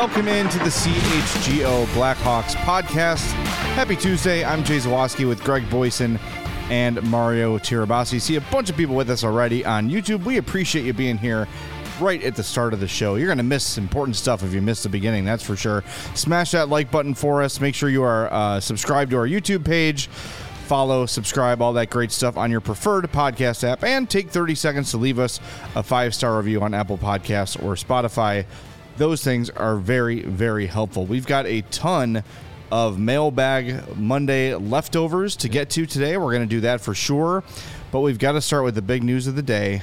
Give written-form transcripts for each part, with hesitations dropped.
Welcome into the CHGO Blackhawks podcast. Happy Tuesday. I'm Jay Zawoski with Greg Boyson and Mario Tirabassi. See a bunch of people with us already on YouTube. We appreciate you being here right at the start of the show. You're going to miss important stuff if you miss the beginning, that's for sure. Smash that like button for us. Make sure you are subscribed to our YouTube page. Follow, subscribe, all that great stuff on your preferred podcast app. And take 30 seconds to leave us a 5-star review on Apple Podcasts or Spotify. Those things are very, very helpful. We've got a ton of Mailbag Monday leftovers to get to today. We're going to do that for sure. But we've got to start with the big news of the day.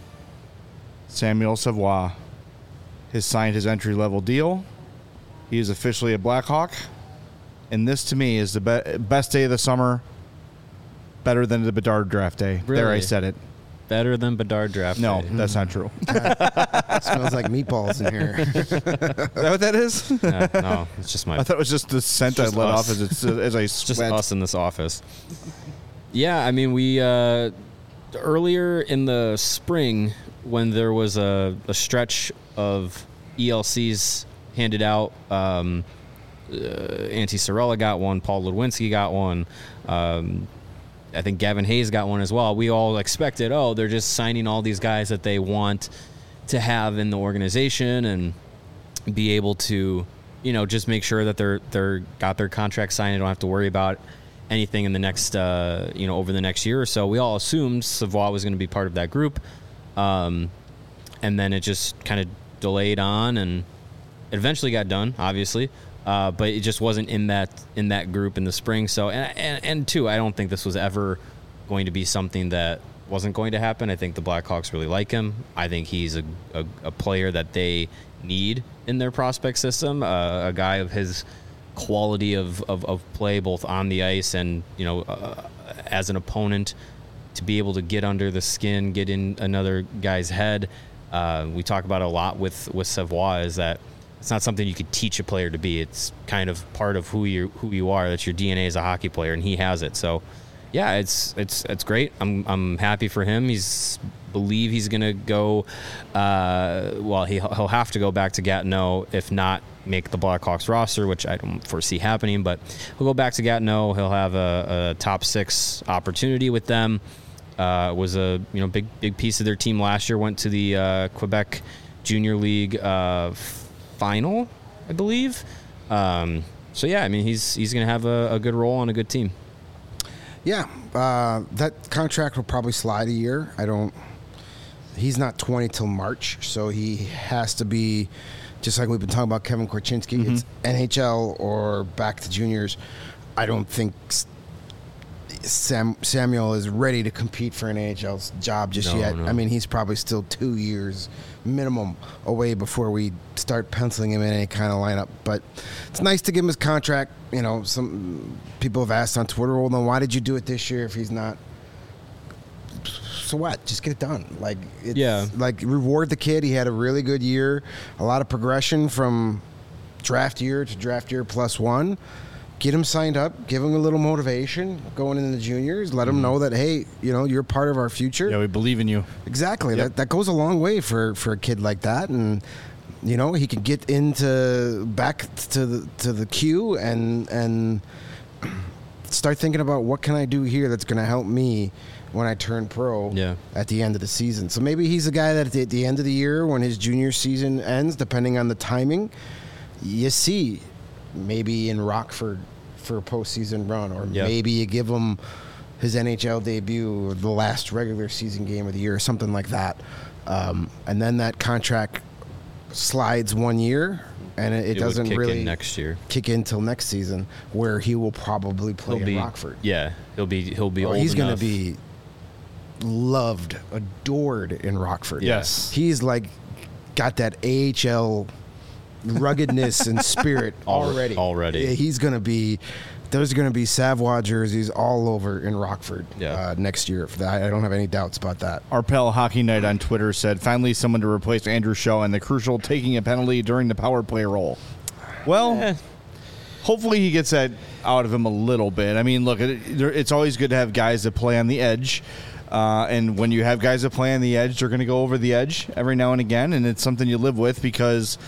Samuel Savoie has signed his entry-level deal. He is officially a Blackhawk. And this, to me, is the best day of the summer. Better than the Bedard draft day. Really? There, I said it. Better than Bedard draft No, day. that's not true. Smells like meatballs in here. Is that what that is? No, it's just my... I thought it was just the scent I just let us. off as I It's just sweat. us in this office. Yeah, I mean, we... earlier in the spring, when there was a stretch of ELCs handed out, Antti Sorella got one, Paul Ludwinski got one, I think Gavin Hayes got one as well. We all expected, they're just signing all these guys that they want to have in the organization and be able to, just make sure that they're got their contract signed and don't have to worry about anything in the next, over the next year or so. We all assumed Savoie was going to be part of that group. And then it just kind of delayed on and it eventually got done, obviously. But it just wasn't in that group in the spring. So and two, I don't think this was ever going to be something that wasn't going to happen. I think the Blackhawks really like him. I think he's a player that they need in their prospect system. A guy of his quality of play, both on the ice and as an opponent, to be able to get under the skin, get in another guy's head. We talk about it a lot with Savoie, is that it's not something you could teach a player to be. It's kind of part of who you are. That's your DNA as a hockey player, and he has it. So, yeah, it's great. I'm happy for him. Believe he's gonna go. He'll have to go back to Gatineau, if not make the Blackhawks roster, which I don't foresee happening. But he'll go back to Gatineau. He'll have a top 6 opportunity with them. Was a big piece of their team last year. Went to the Quebec Junior League final, I believe. So yeah, I mean, he's going to have a good role on a good team. Yeah, that contract will probably slide a year. He's not 20 till March, so he has to be, just like we've been talking about Kevin Korchinski, Mm-hmm. It's NHL or back to juniors. I don't think Samuel is ready to compete for an AHL job just yet. No. I mean, he's probably still 2 years minimum away before we start penciling him in any kind of lineup. But it's nice to give him his contract. Some people have asked on Twitter, well, then why did you do it this year if he's not? So what? Just get it done. Reward the kid. He had a really good year. A lot of progression from draft year to draft year +1. Get him signed up, give him a little motivation going into the juniors, let him know that, hey, you're part of our future. Yeah, we believe in you. Exactly. Yep. That goes a long way for a kid like that. And, he can get back to the queue and start thinking about what can I do here that's going to help me when I turn pro at the end of the season. So maybe he's a guy that at the end of the year, when his junior season ends, depending on the timing, you see maybe in Rockford for a postseason run, or maybe you give him his NHL debut or the last regular season game of the year or something like that. And then that contract slides 1 year, and it doesn't really next year kick in till next season, where he will probably play in Rockford. Yeah, he'll be old he's going enough. to be loved, adored in Rockford. Yes. He's got that AHL ruggedness and spirit already. He's going to be. There's going to be Savoie jerseys all over in Rockford next year. I don't have any doubts about that. Our pal Hockey Night on Twitter said, finally someone to replace Andrew Shaw and the crucial taking a penalty during the power play role. Well, hopefully he gets that out of him a little bit. I mean, look, it's always good to have guys that play on the edge. And when you have guys that play on the edge, they're going to go over the edge every now and again. And it's something you live with because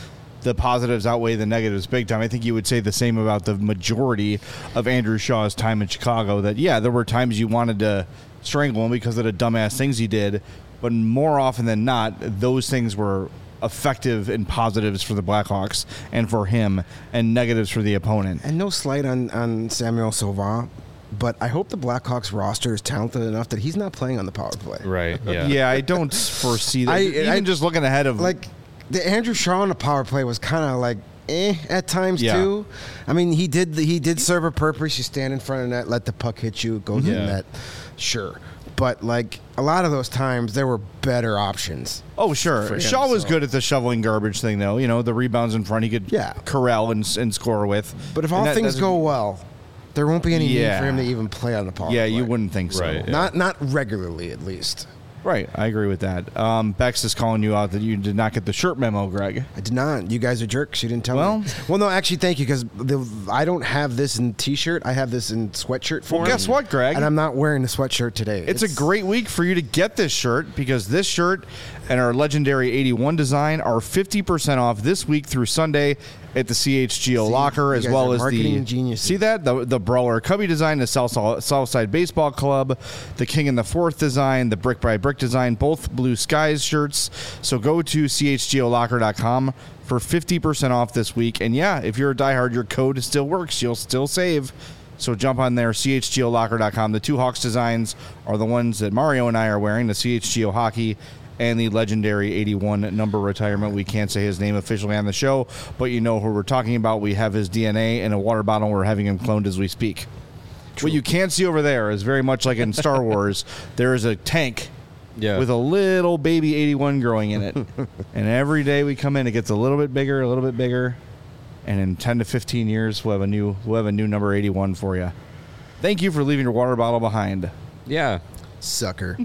the positives outweigh the negatives big time. I think you would say the same about the majority of Andrew Shaw's time in Chicago, that, yeah, there were times you wanted to strangle him because of the dumbass things he did, but more often than not, those things were effective and positives for the Blackhawks and for him, and negatives for the opponent. And no slight on Samuel Sauvin, but I hope the Blackhawks roster is talented enough that he's not playing on the power play. Right. Yeah. Yeah, I don't foresee that. Even just looking ahead of Like, the Andrew Shaw on the power play was kind of like at times too. I mean, he did serve a purpose. You stand in front of the net, let the puck hit you, it goes in the net. Sure. But like a lot of those times, there were better options. Oh, sure. Shaw was good at the shoveling garbage thing, though. You know, the rebounds in front he could corral and score with. But if all things go well, there won't be any need for him to even play on the power play. Yeah, you wouldn't think so. Right, Not regularly, at least. Right, I agree with that. Bex is calling you out that you did not get the shirt memo, Greg. I did not. You guys are jerks. You didn't tell me. Well, no, actually, thank you, because I don't have this in T-shirt. I have this in sweatshirt form. Well, guess what, Greg? And I'm not wearing the sweatshirt today. It's a great week for you to get this shirt, because this shirt and our legendary 81 design are 50% off this week through Sunday at the CHGO Locker, as well as the geniuses. See that the Brawler Cubby design, the Southside Baseball Club, the King and the Fourth design, the Brick by Brick design, both Blue Skies shirts. So go to chgolocker.com for 50% off this week. And yeah, if you're a diehard, your code still works. You'll still save. So jump on there, chgolocker.com. The two Hawks designs are the ones that Mario and I are wearing, the CHGO Hockey and the legendary 81 number retirement. We can't say his name officially on the show, but you know who we're talking about. We have his DNA in a water bottle. We're having him cloned as we speak. True. What you can't see over there is very much like in Star Wars. There is a tank with a little baby 81 growing in it. And every day we come in, it gets a little bit bigger, a little bit bigger. And in 10 to 15 years, we'll have a new number 81 for you. Thank you for leaving your water bottle behind. Yeah. Sucker.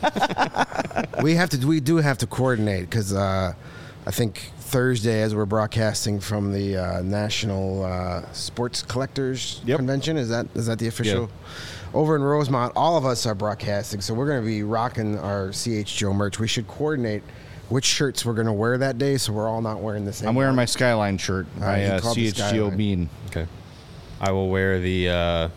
We do have to coordinate, because I think Thursday, as we're broadcasting from the National Sports Collectors Convention, is that the official? Over in Rosemont, all of us are broadcasting, so we're going to be rocking our CHGO merch. We should coordinate which shirts we're going to wear that day, so we're all not wearing the same. I'm wearing my Skyline shirt by CHGO Bean. Okay. I will wear the.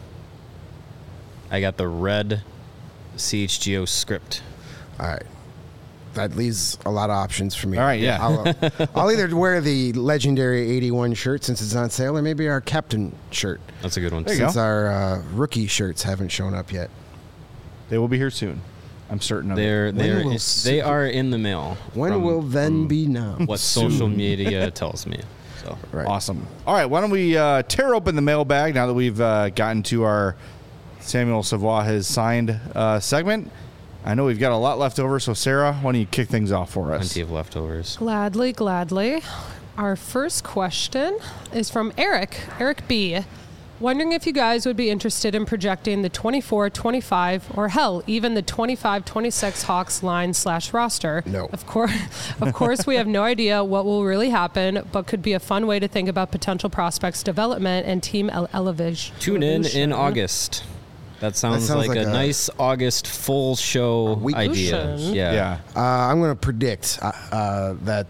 I got the red CHGO script. All right. That leaves a lot of options for me. All right, yeah. I'll either wear the legendary 81 shirt since it's on sale, or maybe our captain shirt. That's a good one. Since our rookie shirts haven't shown up yet. They will be here soon. I'm certain of it. They are in the mail. When will then be now? What social media tells me. So Awesome. All right, why don't we tear open the mailbag now that we've gotten to our Samuel Savoie has signed segment. I know we've got a lot left over, so Sarah, why don't you kick things off for us? Plenty of leftovers. Gladly. Our first question is from Eric B. Wondering if you guys would be interested in projecting the 24-25, or hell, even the 25-26 Hawks line/roster. No. Of course, we have no idea what will really happen, but could be a fun way to think about potential prospects' development and team elevation. Tune in August. That sounds like a nice August full show idea. Yeah. I'm going to predict that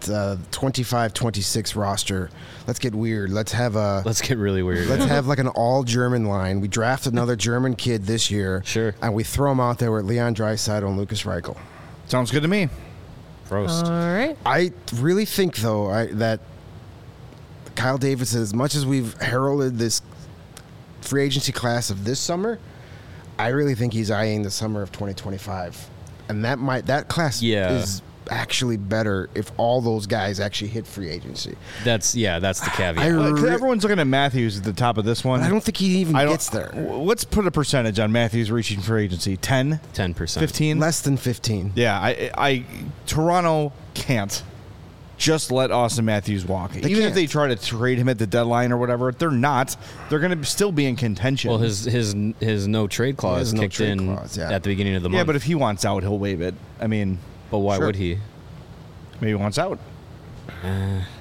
25-26 roster. Let's get weird. Let's get really weird. Let's have like an all-German line. We draft another German kid this year. Sure. And we throw him out there with Leon Draisaitl and Lucas Reichel. Sounds good to me. Prost. All right. I really think, though, that Kyle Davidson, as much as we've heralded this free agency class of this summer, I really think he's eyeing the summer of 2025, and that class is actually better if all those guys actually hit free agency. That's the caveat. Everyone's looking at Matthews at the top of this one. I don't think he even gets there. Let's put a percentage on Matthews reaching free agency. 10%. 15? Less than 15. Yeah, Toronto can't just let Austin Matthews walk. Even if they try to trade him at the deadline or whatever, they're not. They're going to still be in contention. Well, his no trade clause kicked in at the beginning of the month. Yeah, but if he wants out, he'll waive it. I mean, but why would he? Maybe he wants out.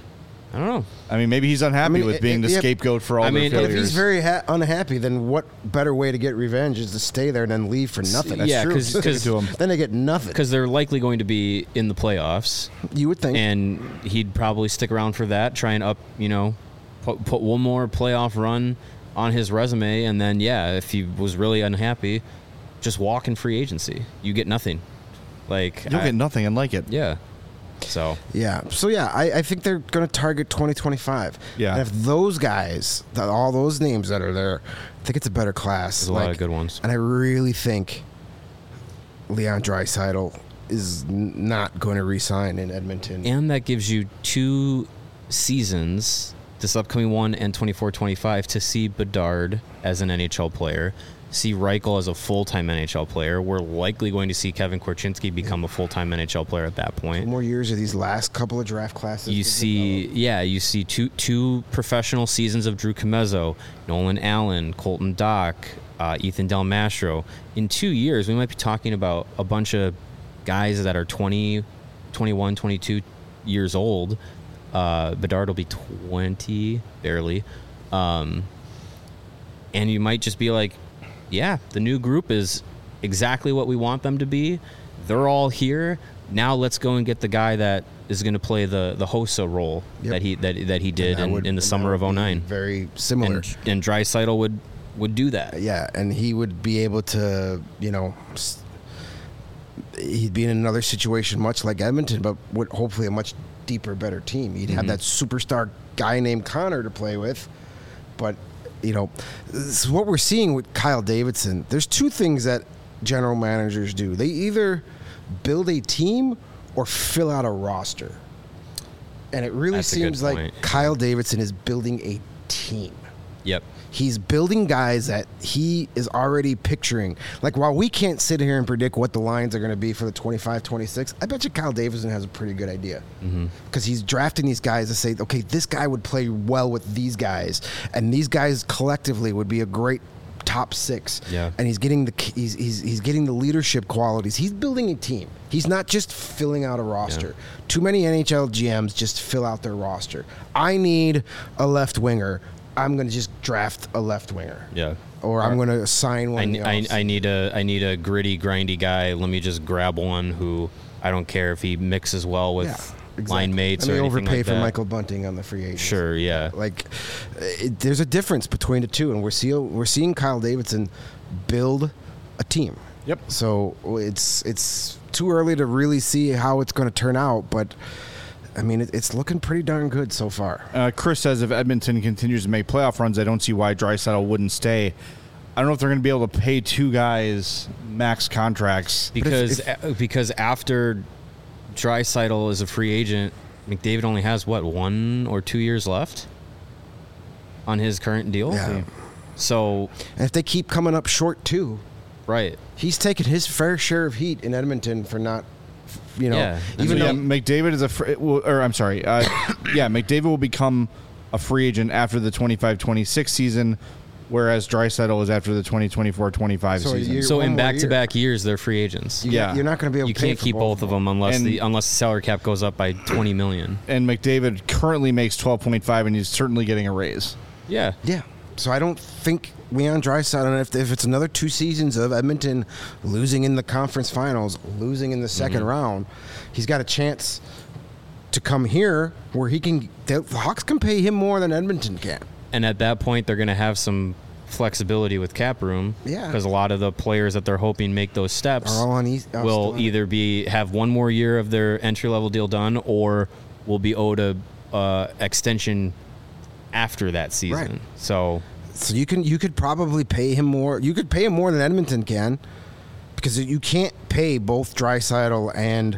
I don't know. I mean, maybe he's unhappy with being the scapegoat for all their But if failures. he's very unhappy, then what better way to get revenge is to stay there and then leave for nothing? That's Yeah, true. 'cause to him. Then they get nothing. Because they're likely going to be in the playoffs, You would think. and he'd probably stick around for that, try and put one more playoff run on his resume, and then if he was really unhappy, just walk in free agency. You get nothing. You'll get nothing and like it. Yeah. So I think they're going to target 2025. Yeah. And if those guys, all those names that are there, I think it's a better class. there's a lot of good ones. And I really think Leon Draisaitl is not going to re-sign in Edmonton. And that gives you 2 seasons, this upcoming one and 24-25, to see Bedard as an NHL player, see Reichel as a full-time NHL player. We're likely going to see Kevin Korchinski become a full-time NHL player at that point. More years of these last couple of draft classes. You see two professional seasons of Drew Comezzo, Nolan Allen, Colton Dock, Ethan Del Mastro. In 2 years, we might be talking about a bunch of guys that are 20, 21, 22 years old. Bedard will be 20, barely. And you might just be like, the new group is exactly what we want them to be. They're all here. Now let's go and get the guy that is going to play the Hossa role that he did in the summer of 2009. Very similar. And Draisaitl would do that. Yeah, and he would be able to, he'd be in another situation much like Edmonton, but with hopefully a much deeper, better team. He'd have that superstar guy named Connor to play with, but this is what we're seeing with Kyle Davidson. There's 2 things that general managers do. They either build a team or fill out a roster. And it really seems like Kyle Davidson is building a team. Yep. He's building guys that he is already picturing. Like, while we can't sit here and predict what the lines are going to be for the 25-26, I bet you Kyle Davidson has a pretty good idea. Because he's drafting these guys to say, okay, this guy would play well with these guys, and these guys collectively would be a great top 6. Yeah. And he's getting he's getting the leadership qualities. He's building a team. He's not just filling out a roster. Yeah. Too many NHL GMs just fill out their roster. I need a left winger. I'm going to just draft a left winger. Yeah. Or I'm going to sign one. I need a gritty, grindy guy. Let me just grab one who I don't care if he mixes well with line mates or anything like that. overpay for Michael Bunting on the free agent. Sure, yeah. There's a difference between the two, and we're seeing Kyle Davidson build a team. Yep. So it's too early to really see how it's going to turn out, but I mean, it's looking pretty darn good so far. Chris says if Edmonton continues to make playoff runs, I don't see why Draisaitl wouldn't stay. I don't know if they're going to be able to pay 2 guys max contracts. Because after Draisaitl is a free agent, McDavid only has, 1 or 2 years left on his current deal? Yeah. So, And if they keep coming up short, too, right. he's taken his fair share of heat in Edmonton for not, even though McDavid is McDavid will become a free agent after the 25-26 season, whereas Draisaitl is after the 2024-25 season. So in back-to-back years, they're free agents. you're not going to be able to pay can't for keep both of them unless the salary cap goes up by $20 million. And McDavid currently makes 12.5, and he's certainly getting a raise. Yeah. Yeah. So I don't think Leon Draisaitl, if it's another 2 seasons of Edmonton losing in the conference finals, losing in the second round, he's got a chance to come here where the Hawks can pay him more than Edmonton can. And at that point, they're going to have some flexibility with cap room. Yeah. Because a lot of the players that they're hoping make those steps Are all on will either have 1 more year of their entry-level deal done or will be owed a extension after that season. Right. So you could probably pay him more. You could pay him more than Edmonton can, because you can't pay both Draisaitl and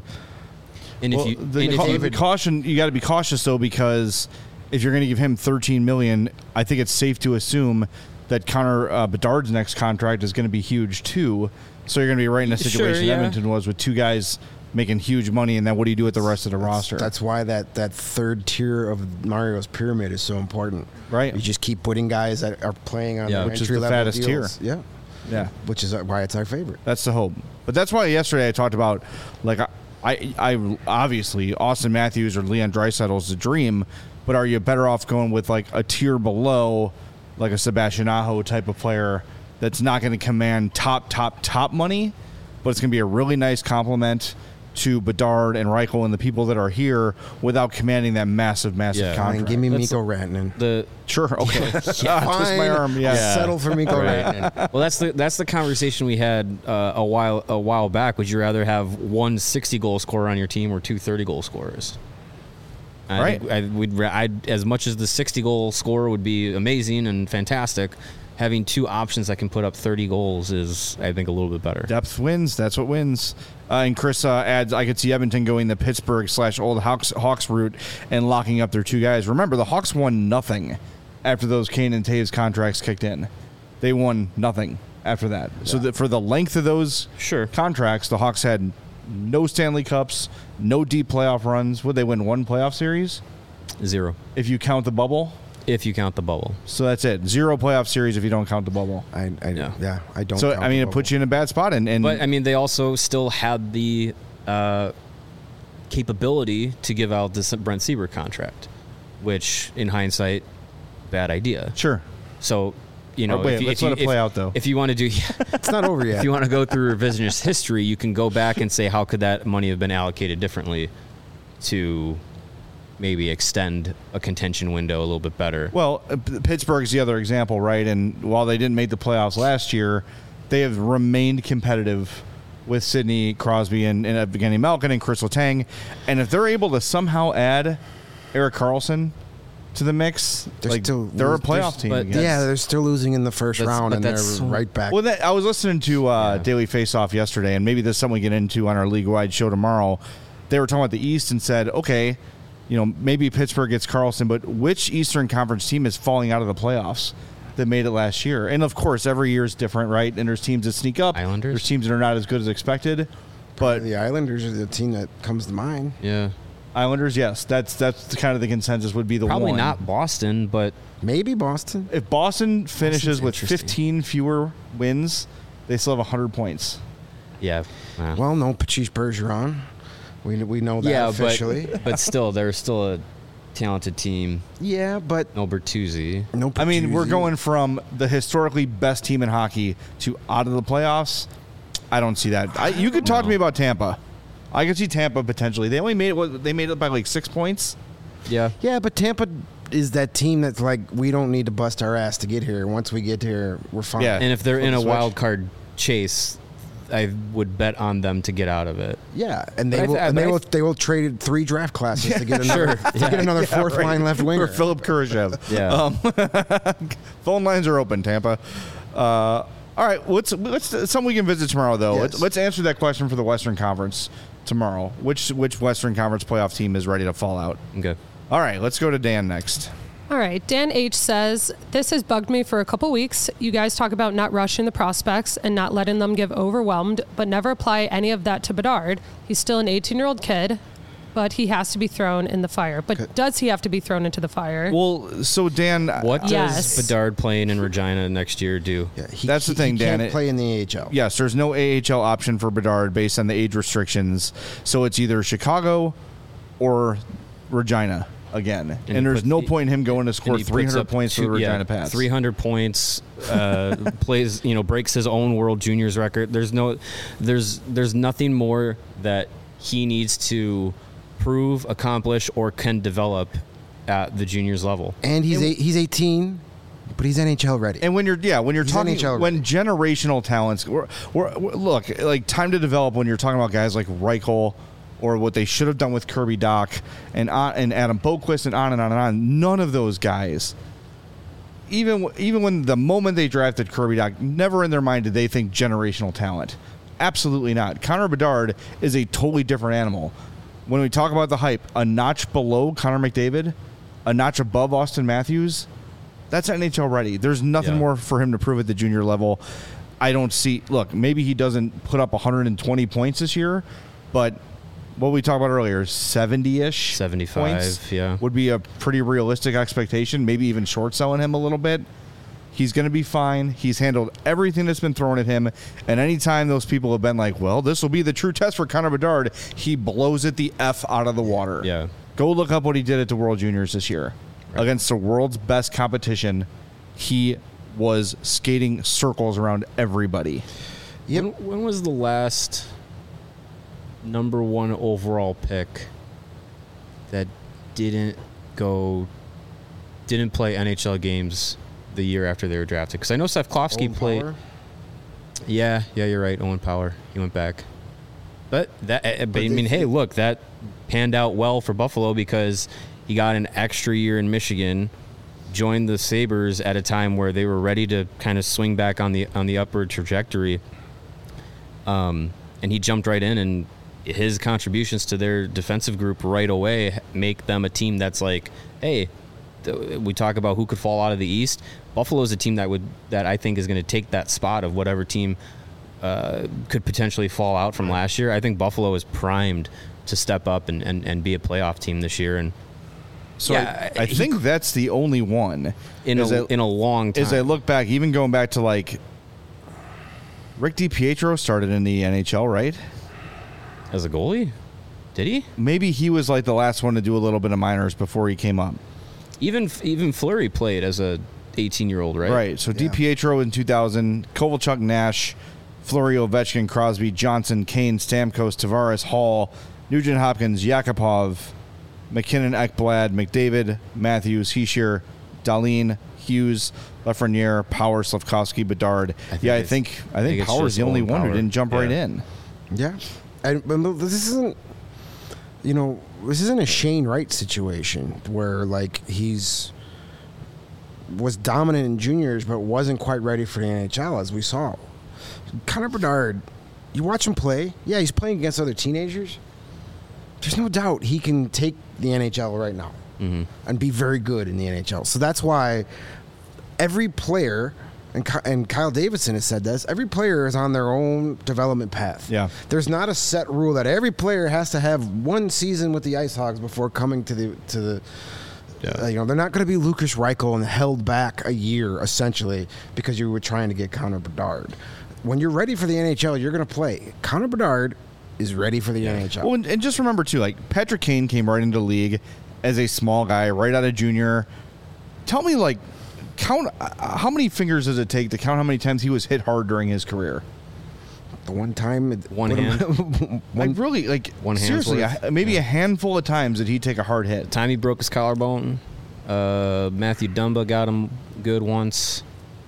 caution, you got to be cautious though, because if you're going to give him $13 million, I think it's safe to assume that Connor Bedard's next contract is going to be huge too. So you're going to be right in a situation Edmonton was with 2 guys making huge money, and then what do you do with the rest of the roster? That's why that third tier of Mario's pyramid is so important. Right. You just keep putting guys that are playing on which is the entry-level fattest deals. tier. Yeah. Which is why it's our favorite. That's the hope. But that's why yesterday I talked about, I obviously Austin Matthews or Leon Draisaitl is a dream, but are you better off going with like a tier below, like a Sebastian Aho type of player that's not going to command top money, but it's going to be a really nice compliment to Bedard and Reichel and the people that are here without commanding that massive Fine, contract. give me Mikko Rantanen. Sure, okay. Twist Fine. my arm. Yeah. Settle for Mikko Rantanen. Well, that's the conversation we had a while back. Would you rather have one 60-goal scorer on your team or two 30-goal scorers? Right. I'd as much as the 60-goal scorer would be amazing and fantastic, having two options that can put up 30 goals is, I think, a little bit better. Depth wins. That's what wins. And Chris adds, I could see Edmonton going the Pittsburgh/old Hawks route and locking up their two guys. Remember, the Hawks won nothing after those Kane and Taves contracts kicked in. They won nothing after that. Yeah. So for the length of those contracts, the Hawks had no Stanley Cups, no deep playoff runs. Would they win one playoff series? 0. If you count the bubble? If you count the bubble. So that's it. 0 playoff series if you don't count the bubble. I don't. So, I mean, it puts you in a bad spot. But, I mean, they also still had the capability to give out this Brent Seabrook contract, which, in hindsight, bad idea. Sure. So, you know, let's let it play out, though. If you want to do... It's not over yet. If you want to go through revisionist history, you can go back and say, how could that money have been allocated differently to... maybe extend a contention window a little bit better. Well, Pittsburgh's the other example, right? And while they didn't make the playoffs last year, they have remained competitive with Sidney Crosby and Evgeny Malkin and Chris Letang. And if they're able to somehow add Erik Karlsson to the mix, they're a playoff team again. Yeah, they're still losing in the first round, and they're right back. Well, I was listening to Daily Faceoff yesterday, and maybe this is something we get into on our league-wide show tomorrow. They were talking about the East and said, okay, you know, maybe Pittsburgh gets Karlsson, but which Eastern Conference team is falling out of the playoffs that made it last year? And, of course, every year is different, right? And there's teams that sneak up. Islanders. There's teams that are not as good as expected. But the Islanders are the team that comes to mind. Yeah. Islanders, yes. That's kind of the consensus would be the Probably one. not Boston, but... Maybe Boston. If Boston finishes with 15 fewer wins, they still have 100 points. Yeah. Well, no Patrice Bergeron. We know that officially. But still, they're still a talented team. Yeah, but... No Bertuzzi. I mean, we're going from the historically best team in hockey to out of the playoffs. I don't see that. You could talk to me about Tampa. I could see Tampa potentially. They only made it. They made it by like 6 points. Yeah. Yeah, but Tampa is that team that's like, we don't need to bust our ass to get here. Once we get here, we're fine. Yeah. And if they're in a wild card chase, I would bet on them to get out of it. Yeah, and they will trade 3 draft classes to get another fourth line left winger. Or Philip Kurashev. Yeah. Phone lines are open, Tampa. All right, let's something we can visit tomorrow though. Yes. Let's answer that question for the Western Conference tomorrow. Which Western Conference playoff team is ready to fall out? Okay. All right, let's go to Dan next. All right. Dan H. says, this has bugged me for a couple weeks. You guys talk about not rushing the prospects and not letting them get overwhelmed, but never apply any of that to Bedard. He's still an 18-year-old kid, but he has to be thrown in the fire. But does he have to be thrown into the fire? Well, so Dan... What does Bedard playing in Regina next year do? Yeah, that's the thing, Dan. He can't play in the AHL. Yes, there's no AHL option for Bedard based on the age restrictions. So it's either Chicago or Regina again. And there's no point in him going to score 300 points for the Regina Pats. 300 points, plays, breaks his own World Juniors record. There's nothing more that he needs to prove, accomplish, or can develop at the juniors level. And he's 18, but he's NHL ready. And when you're talking when generational talents, look, like time to develop. When you're talking about guys like Reichel, or what they should have done with Kirby Dach and Adam Boqvist and on and on and on. None of those guys, even when the moment they drafted Kirby Dach, never in their mind did they think generational talent. Absolutely not. Connor Bedard is a totally different animal. When we talk about the hype, a notch below Connor McDavid, a notch above Austin Matthews, that's NHL ready. There's nothing more for him to prove at the junior level. I don't see... Look, maybe he doesn't put up 120 points this year, but... What we talked about earlier, 70-ish 75 points yeah, would be a pretty realistic expectation, maybe even short selling him a little bit. He's going to be fine. He's handled everything that's been thrown at him, and anytime those people have been like, well, this will be the true test for Connor Bedard, he blows it the F out of the water. Yeah. Go look up what he did at the World Juniors this year. Right. Against the world's best competition, he was skating circles around everybody. Yep. When was the last number 1 overall pick that didn't play NHL games the year after they were drafted? Because I know Safkovsky played. Power? Yeah, you're right. Owen Power. He went back. But I mean, hey, look, that panned out well for Buffalo because he got an extra year in Michigan, joined the Sabres at a time where they were ready to kind of swing back on the upward trajectory. And he jumped right in, and his contributions to their defensive group right away make them a team that's like, hey, we talk about who could fall out of the East. Buffalo is a team that I think is going to take that spot of whatever team could potentially fall out from last year. I think Buffalo is primed to step up and be a playoff team this year. And so yeah, I think that's the only one in a long time. As I look back, even going back to like Rick DiPietro started in the NHL, right? As a goalie? Did he? Maybe he was like the last one to do a little bit of minors before he came up. Even Fleury played as a 18-year-old, right? Right. So yeah. DiPietro in 2000, Kovalchuk, Nash, Fleury, Ovechkin, Crosby, Johnson, Kane, Stamkos, Tavares, Hall, Nugent Hopkins, Yakupov, McKinnon, Ekblad, McDavid, Matthews, Hischier, Dahlin, Hughes, Lafreniere, Power, Slavkovsky, Bedard. I think Power's the only one who didn't jump right in. Yeah. And this isn't, this isn't a Shane Wright situation where like was dominant in juniors but wasn't quite ready for the NHL, as we saw. Connor Bedard, you watch him play. Yeah, he's playing against other teenagers. There's no doubt he can take the NHL right now and be very good in the NHL. So that's why every player, and Kyle Davidson has said this, every player is on their own development path. Yeah. There's not a set rule that every player has to have one season with the Ice Hogs before coming to the they're not going to be Lucas Reichel and held back a year, essentially, because you were trying to get Connor Bedard. When you're ready for the NHL, you're going to play. Connor Bedard is ready for the NHL. Well, and just remember, too, like, Patrick Kane came right into the league as a small guy, right out of junior. Tell me, like, count how many fingers does it take to count how many times he was hit hard during his career? The one time, one hand, one seriously, maybe a handful of times did he take a hard hit. The time he broke his collarbone, Matthew Dumba got him good once.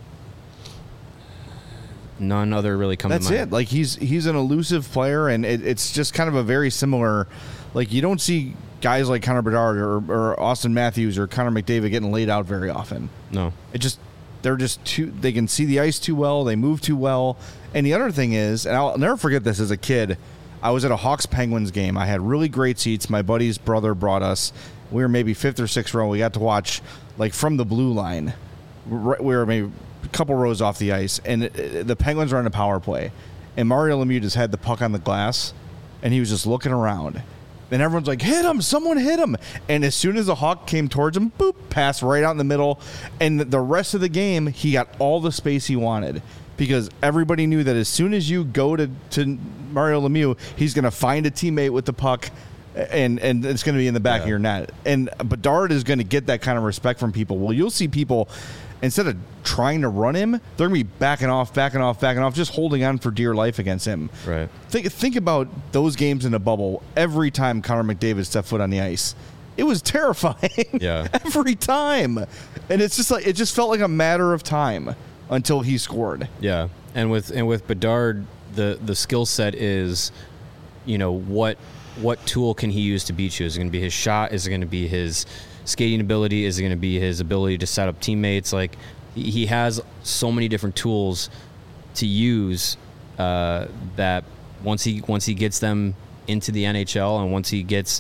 None other really come to mind. That's it. Like he's an elusive player, and it's just kind of a very similar. Like you don't see guys like Connor Bedard or Austin Matthews or Connor McDavid getting laid out very often. No, they're just too. They can see the ice too well. They move too well. And the other thing is, and I'll never forget this. As a kid, I was at a Hawks Penguins game. I had really great seats. My buddy's brother brought us. We were maybe 5th or 6th row. We got to watch like from the blue line. We were maybe a couple rows off the ice, and the Penguins were on a power play. And Mario Lemieux just had the puck on the glass, and he was just looking around. And everyone's like, hit him, someone hit him. And as soon as the Hawk came towards him, boop, pass right out in the middle. And the rest of the game, he got all the space he wanted. Because everybody knew that as soon as you go to Mario Lemieux, he's going to find a teammate with the puck, and it's going to be in the back of your net. And Bedard is going to get that kind of respect from people. Well, you'll see people, instead of trying to run him, they're going to be backing off, just holding on for dear life against him. Right. Think about those games in a bubble. Every time Connor McDavid stepped foot on the ice, it was terrifying. Yeah. Every time. And it's just like it just felt like a matter of time until he scored. Yeah. And with Bedard, the skill set is, what tool can he use to beat you? Is it going to be his shot? Is it going to be his skating ability? Is it going to be his ability to set up teammates? Like he has so many different tools to use that once he gets them into the NHL and once he gets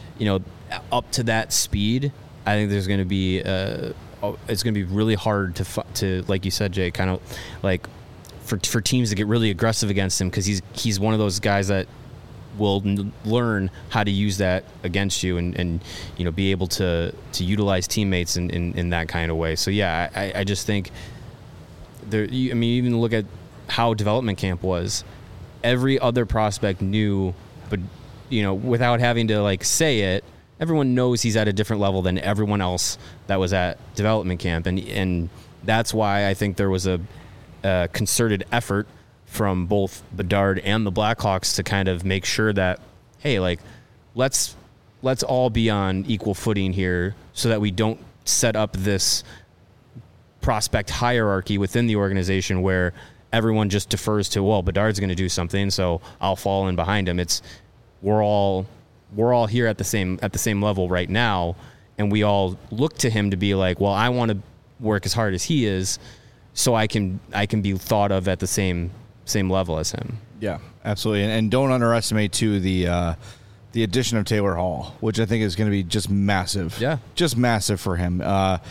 up to that speed, I think there's going to be it's going to be really hard to like you said, Jay, kind of like for teams to get really aggressive against him, because he's one of those guys that will learn how to use that against you and be able to utilize teammates in that kind of way. So yeah, I just think even look at how development camp was. Every other prospect knew, but without having to like say it, everyone knows he's at a different level than everyone else that was at development camp, and that's why I think there was a concerted effort from both Bedard and the Blackhawks to kind of make sure that, hey, like, let's all be on equal footing here so that we don't set up this prospect hierarchy within the organization where everyone just defers to, well, Bedard's going to do something, so I'll fall in behind him. It's we're all here at the same level right now, and we all look to him to be like, well, I want to work as hard as he is, so I can be thought of at the same level as him. Yeah, absolutely. And don't underestimate too the addition of Taylor Hall, which I think is going to be just massive. Yeah, just massive for him. Not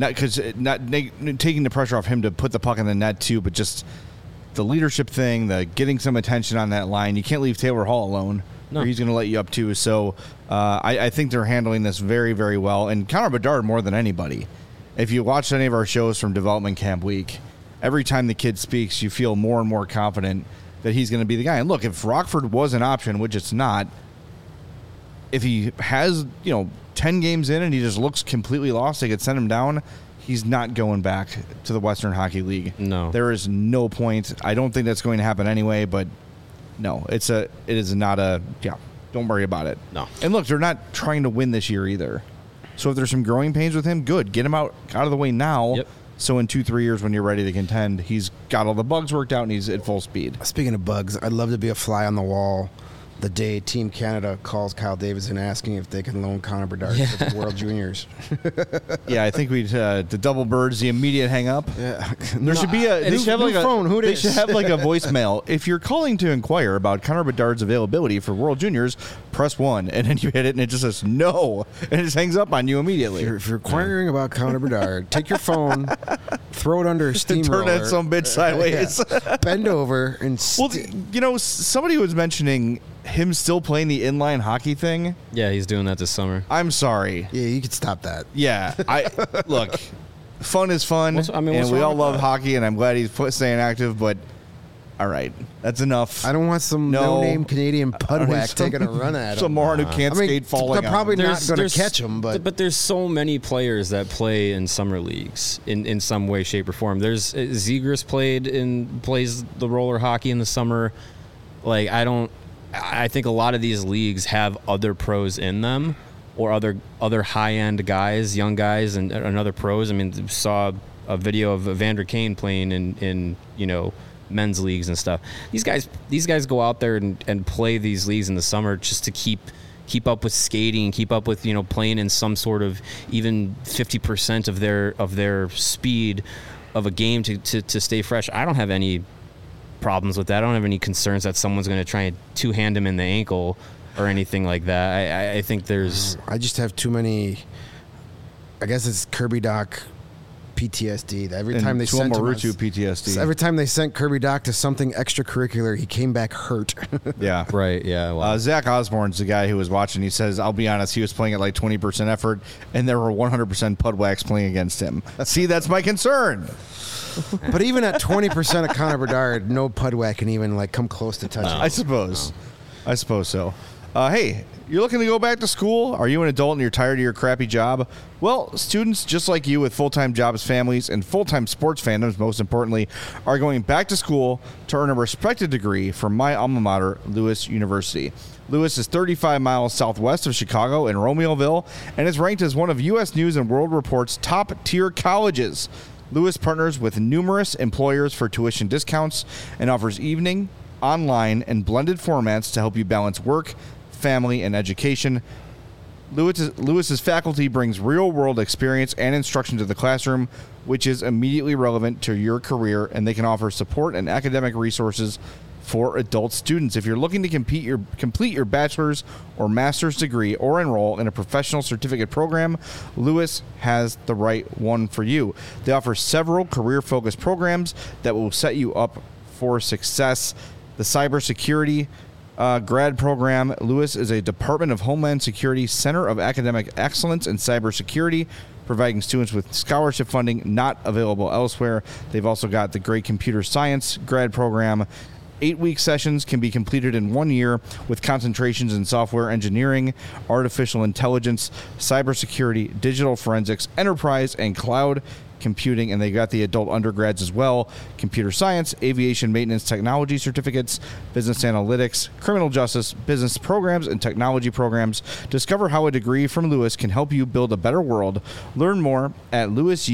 taking the pressure off him to put the puck in the net too, but just the leadership thing, the getting some attention on that line. You can't leave Taylor Hall alone. No. Or he's going to let you up too. So I think they're handling this very, very well. And Connor Bedard more than anybody. If you watch any of our shows from development camp week, every time the kid speaks, you feel more and more confident that he's going to be the guy. And look, if Rockford was an option, which it's not, if he has 10 games in and he just looks completely lost, they could send him down. He's not going back to the Western Hockey League. No, there is no point. I don't think that's going to happen anyway. But no, it is not a. Yeah, don't worry about it. No. And look, they're not trying to win this year either. So if there's some growing pains with him, good. Get him out of the way now. Yep. So in 2-3 years when you're ready to contend, he's got all the bugs worked out and he's at full speed. Speaking of bugs, I'd love to be a fly on the wall the day Team Canada calls Kyle Davidson asking if they can loan Connor Bedard to the World Juniors. Yeah, I think the double birds, the immediate hang up. Yeah. There should be a phone. Who they should have like a voicemail. If you're calling to inquire about Connor Bedard's availability for World Juniors, press 1, and then you hit it, and it just says no, and it just hangs up on you immediately. If you're inquiring about Connor Bedard, take your phone, throw it under a steamroller, turn that some bitch sideways, bend over, and somebody was mentioning him still playing the inline hockey thing. Yeah, he's doing that this summer. I'm sorry. Yeah, you could stop that. Yeah, look, fun is fun, and we all love hockey, and I'm glad he's staying active, but all right, that's enough. I don't want some no-name Canadian pudwack taking a run at him. Some moron who can't skate falling. They're probably not going to catch him, but there's so many players that play in summer leagues in some way, shape, or form. There's Zegras plays the roller hockey in the summer. Like I think a lot of these leagues have other pros in them, or other high-end guys, young guys, and other pros. I mean, saw a video of Evander Kane playing in men's leagues and stuff. These guys go out there and play these leagues in the summer just to keep up with skating, keep up with playing in some sort of even 50% of their speed of a game to stay fresh. I don't have any problems with that. I don't have any concerns that someone's going to try and two-hand him in the ankle or anything like that. I think there's... I just have too many... I guess it's Kirby Doc PTSD. Every time they sent PTSD. Every time they sent Kirby Doc to something extracurricular, he came back hurt. Yeah. Right, yeah. Wow. Zach Osborne's the guy who was watching. He says, I'll be honest, he was playing at like 20% effort, and there were 100% Pudwacks playing against him. See, that's my concern. But even at 20% of Connor Bedard, no Pudwack can even come close to touching him. I suppose so. Hey, you're looking to go back to school? Are you an adult and you're tired of your crappy job? Well, students just like you with full-time jobs, families, and full-time sports fandoms, most importantly, are going back to school to earn a respected degree from my alma mater, Lewis University. Lewis is 35 miles southwest of Chicago in Romeoville and is ranked as one of U.S. News and World Report's top-tier colleges. Lewis partners with numerous employers for tuition discounts and offers evening, online, and blended formats to help you balance work, family, and education. Lewis's faculty brings real-world experience and instruction to the classroom, which is immediately relevant to your career, and they can offer support and academic resources for adult students. If you're looking to complete your bachelor's or master's degree or enroll in a professional certificate program, Lewis has the right one for you. They offer several career-focused programs that will set you up for success. The cybersecurity grad program. Lewis is a Department of Homeland Security Center of Academic Excellence in Cybersecurity, providing students with scholarship funding not available elsewhere. They've also got the great computer science grad program 8-week sessions can be completed in 1 year with concentrations in software engineering, artificial intelligence, cybersecurity, digital forensics, enterprise, and cloud computing. And they got the adult undergrads as well: computer science, aviation maintenance technology certificates, business analytics, criminal justice, business programs, and technology programs. Discover how a degree from Lewis can help you build a better world. Learn more at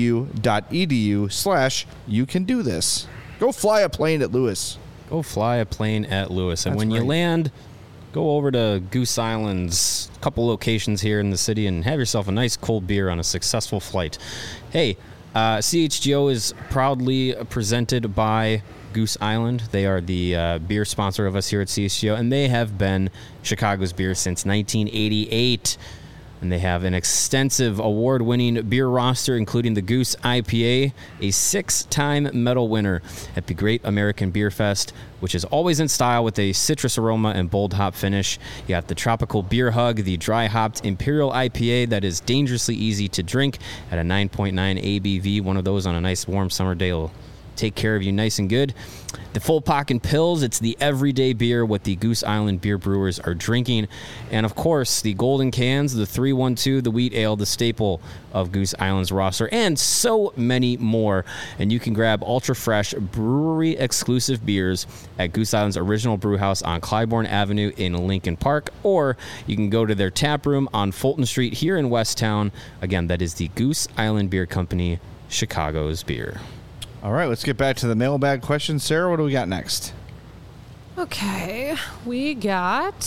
lewisu.edu/you-can-do-this. Go fly a plane at Lewis. Go fly a plane at Lewis. And That's when you right. land, go over to Goose Island's couple locations here in the city and have yourself a nice cold beer on a successful flight. Hey, CHGO is proudly presented by Goose Island. They are the beer sponsor of us here at CHGO, and they have been Chicago's beer since 1988. And they have an extensive award-winning beer roster, including the Goose IPA, a 6-time medal winner at the Great American Beer Fest, which is always in style with a citrus aroma and bold hop finish. You got the Tropical Beer Hug, the dry-hopped Imperial IPA that is dangerously easy to drink at a 9.9 ABV. One of those on a nice warm summer day will take care of you nice and good. The Full Pocket Pils, it's the everyday beer what the Goose Island beer brewers are drinking. And of course, the golden cans, the 312, the wheat ale, the staple of Goose Island's roster, and so many more. And you can grab ultra fresh brewery exclusive beers at Goose Island's original brew house on Clybourne Avenue in Lincoln Park, or you can go to their tap room on Fulton Street here in Westtown. Again, that is the Goose Island Beer Company, Chicago's beer. All right, let's get back to the mailbag questions. Sarah, what do we got next? Okay, we got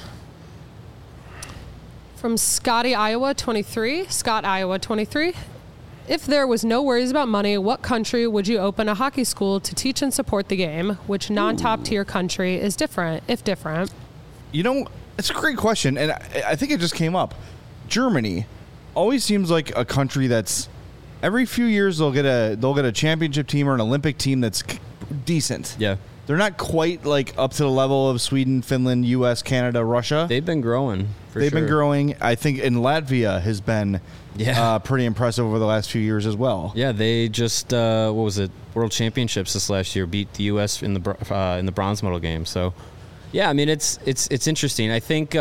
from Scotty, Iowa 23. Scott, Iowa 23. If there was no worries about money, what country would you open a hockey school to teach and support the game? Which non-top tier country is different, if different? You know, it's a great question, and I think it just came up. Germany always seems like a country that's every few years they'll get a championship team or an Olympic team that's decent. Yeah. They're not quite like up to the level of Sweden, Finland, U.S., Canada, Russia. They've been growing. They've been growing. I think in Latvia has been pretty impressive over the last few years as well. Yeah, they just what was it? World Championships this last year beat the U.S. in the bronze medal game. So, yeah, I mean it's interesting. I think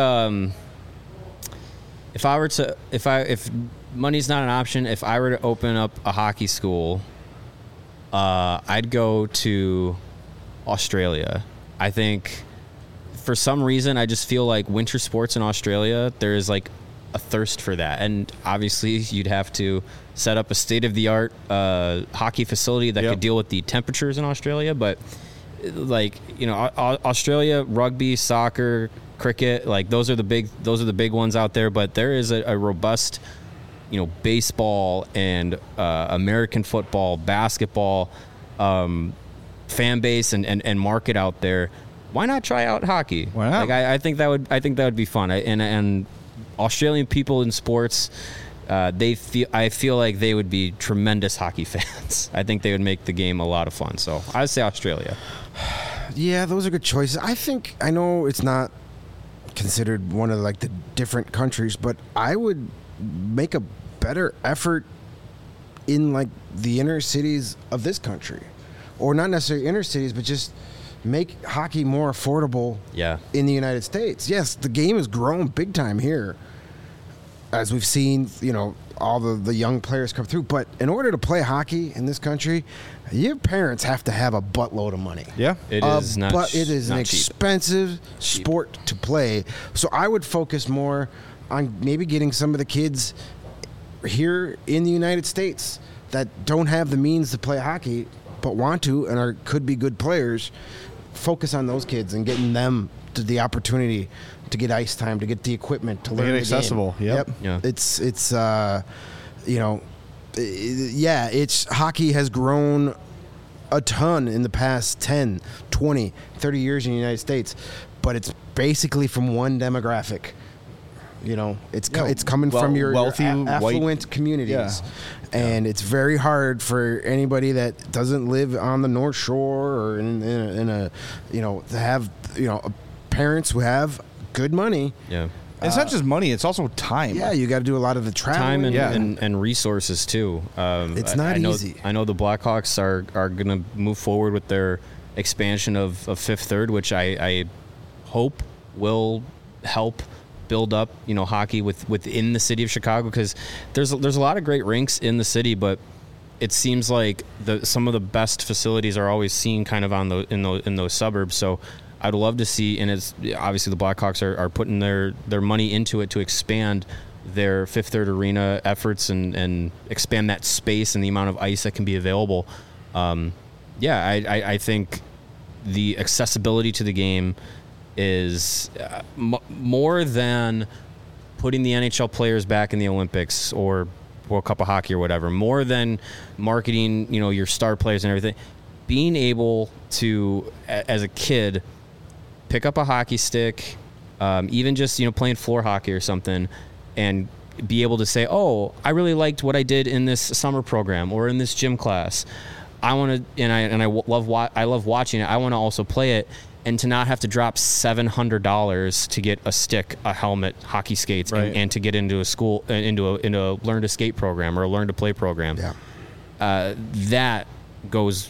if money's not an option, if I were to open up a hockey school, I'd go to Australia. I think for some reason I just feel like winter sports in Australia, there is like a thirst for that. And obviously you'd have to set up a state-of-the-art hockey facility that could deal with the temperatures in Australia. But like, you know, Australia, rugby, soccer, cricket, like those are the big ones out there. But there is a robust, you know, baseball and American football, basketball fan base and market out there. Why not try out hockey? Why not? Like I think that would be fun. And Australian people in sports, I feel like they would be tremendous hockey fans. I think they would make the game a lot of fun. So I'd say Australia. Yeah, those are good choices. I know it's not considered one of like the different countries, but I would make a better effort in like the inner cities of this country, or not necessarily inner cities, but just make hockey more affordable in the United States. Yes, the game has grown big time here, as we've seen, you know, all the young players come through. But in order to play hockey in this country, your parents have to have a buttload of money. Yeah. It is not But it is not an cheap. expensive sport to play. So I would focus more on maybe getting some of the kids here in the United States that don't have the means to play hockey but want to and could be good players. Focus on those kids and getting them to the opportunity to get ice time, to get the equipment, to learn it the accessible. game. Yep. Yeah. It's you know, hockey has grown a ton in the past 10, 20, 30 years in the United States, but it's basically from one demographic. You know, it's coming from your wealthy, affluent white communities. And it's very hard for anybody that doesn't live on the North Shore or in a you know, to have, you know, parents who have good money. Yeah. It's not just money; it's also time. Yeah, you got to do a lot of the traveling. Time and resources too. It's not easy. I know the Blackhawks are going to move forward with their expansion of Fifth Third, which I hope will help build up, hockey within the city of Chicago, because there's a lot of great rinks in the city, but it seems like some of the best facilities are always seen kind of in those suburbs. So I'd love to see, and it's obviously the Blackhawks are putting their money into it to expand their Fifth Third Arena efforts and expand that space and the amount of ice that can be available. I think the accessibility to the game is more than putting the NHL players back in the Olympics or World Cup of Hockey or whatever, more than marketing, your star players and everything. Being able to, as a kid, pick up a hockey stick, even just, playing floor hockey or something, and be able to say, oh, I really liked what I did in this summer program or in this gym class. I want to, I love watching it. I want to also play it. And to not have to drop $700 to get a stick, a helmet, hockey skates, right, and to get into a school, into a learn to skate program or a learn to play program. Yeah. That goes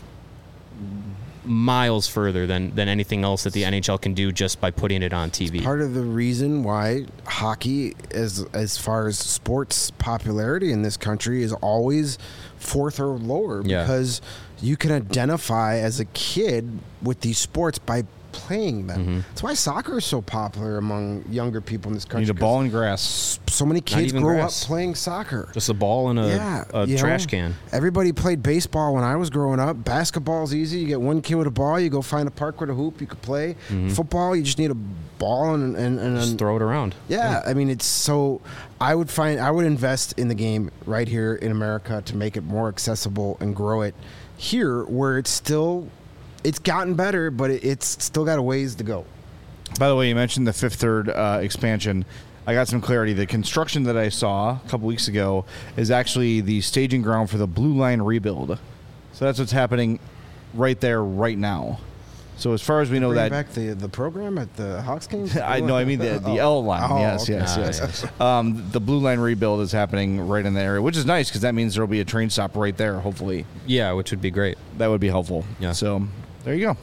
miles further than anything else that the NHL can do just by putting it on TV. It's part of the reason why hockey, as far as sports popularity in this country, is always fourth or lower, because you can identify as a kid with these sports by playing them. Mm-hmm. That's why soccer is so popular among younger people in this country. You need a ball and grass. So many kids grow grass. up playing soccer. Just a ball and a trash can. Everybody played baseball when I was growing up. Basketball's easy. You get one kid with a ball, you go find a park with a hoop, you could play. Mm-hmm. Football, you just need a ball and just throw it around. Yeah, I mean, it's so. I would invest in the game right here in America to make it more accessible and grow it here, where it's gotten better, but it's still got a ways to go. By the way, you mentioned the Fifth Third expansion. I got some clarity. The construction that I saw a couple weeks ago is actually the staging ground for the Blue Line rebuild. So that's what's happening right there, right now. So as far as we know, Bring that back the program at the Hawks games. I mean the L line. Oh, yes, okay. yes. The Blue Line rebuild is happening right in the area, which is nice because that means there will be a train stop right there. Hopefully, Yeah, which would be great. that would be helpful. Yeah. So there you go.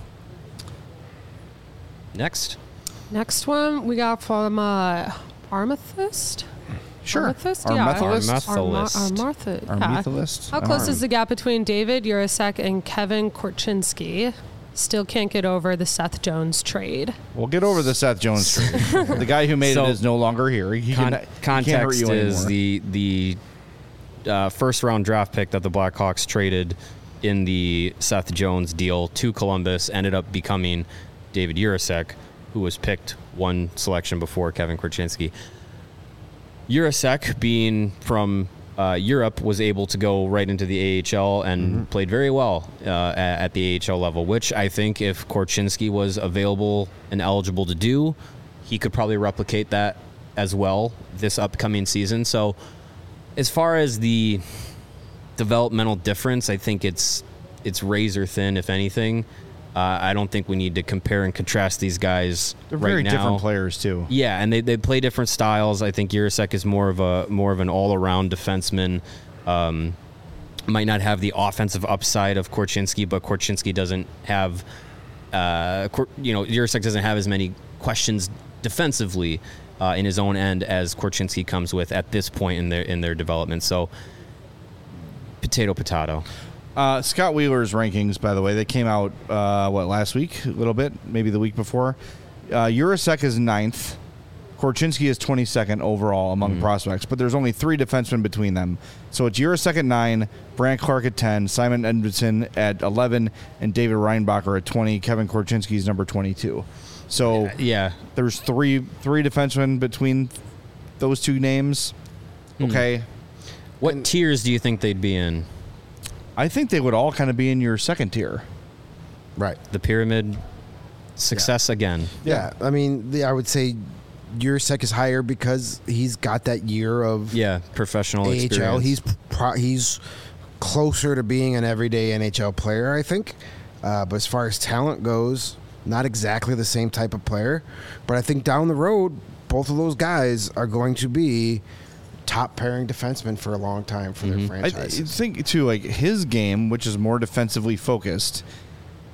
Next one we got from Amethyst. Sure. Amethyst? Our Yeah. Methodist. How close is the gap between David Urasek and Kevin Korchinski? Still can't get over the Seth Jones trade. We'll get over the Seth Jones trade. The guy who made it is no longer here. He can't hurt context you is anymore. the first round draft pick that the Blackhawks traded in the Seth Jones deal to Columbus ended up becoming David Urasek, who was picked one selection before Kevin Korchinski. Urasek, being from Europe, was able to go right into the AHL and played very well at the AHL level, which I think if Korchinski was available and eligible to do, he could probably replicate that as well this upcoming season. So as far as the developmental difference, I think it's razor thin, if anything. I don't think we need to compare and contrast these guys They're right very now. different players too. Yeah, and they play different styles. I think Urasek is more of an all-around defenseman. Might not have the offensive upside of Korchinski, but Korchinski doesn't have, Urasek doesn't have as many questions defensively in his own end as Korchinski comes with at this point in their development. So, potato. Scott Wheeler's rankings, by the way, they came out, last week? A little bit, maybe the week before. Urasek is 9th. Korchinski is 22nd overall among prospects, but there's only 3 defensemen between them. So it's Urasek at 9, Brant Clark at 10, Simon Edmondson at 11, and David Reinbacher at 20. Kevin Korchinski is number 22. So there's three defensemen between those two names. Okay. What tiers do you think they'd be in? I think they would all kind of be in your second tier. Right. The pyramid success again. Yeah. I mean, I would say Urasek is higher because he's got that year of professional AHL. experience. He's closer to being an everyday NHL player, I think. But as far as talent goes, not exactly the same type of player. But I think down the road, both of those guys are going to be top pairing defensemen for a long time for their franchises. I think too, like his game, which is more defensively focused,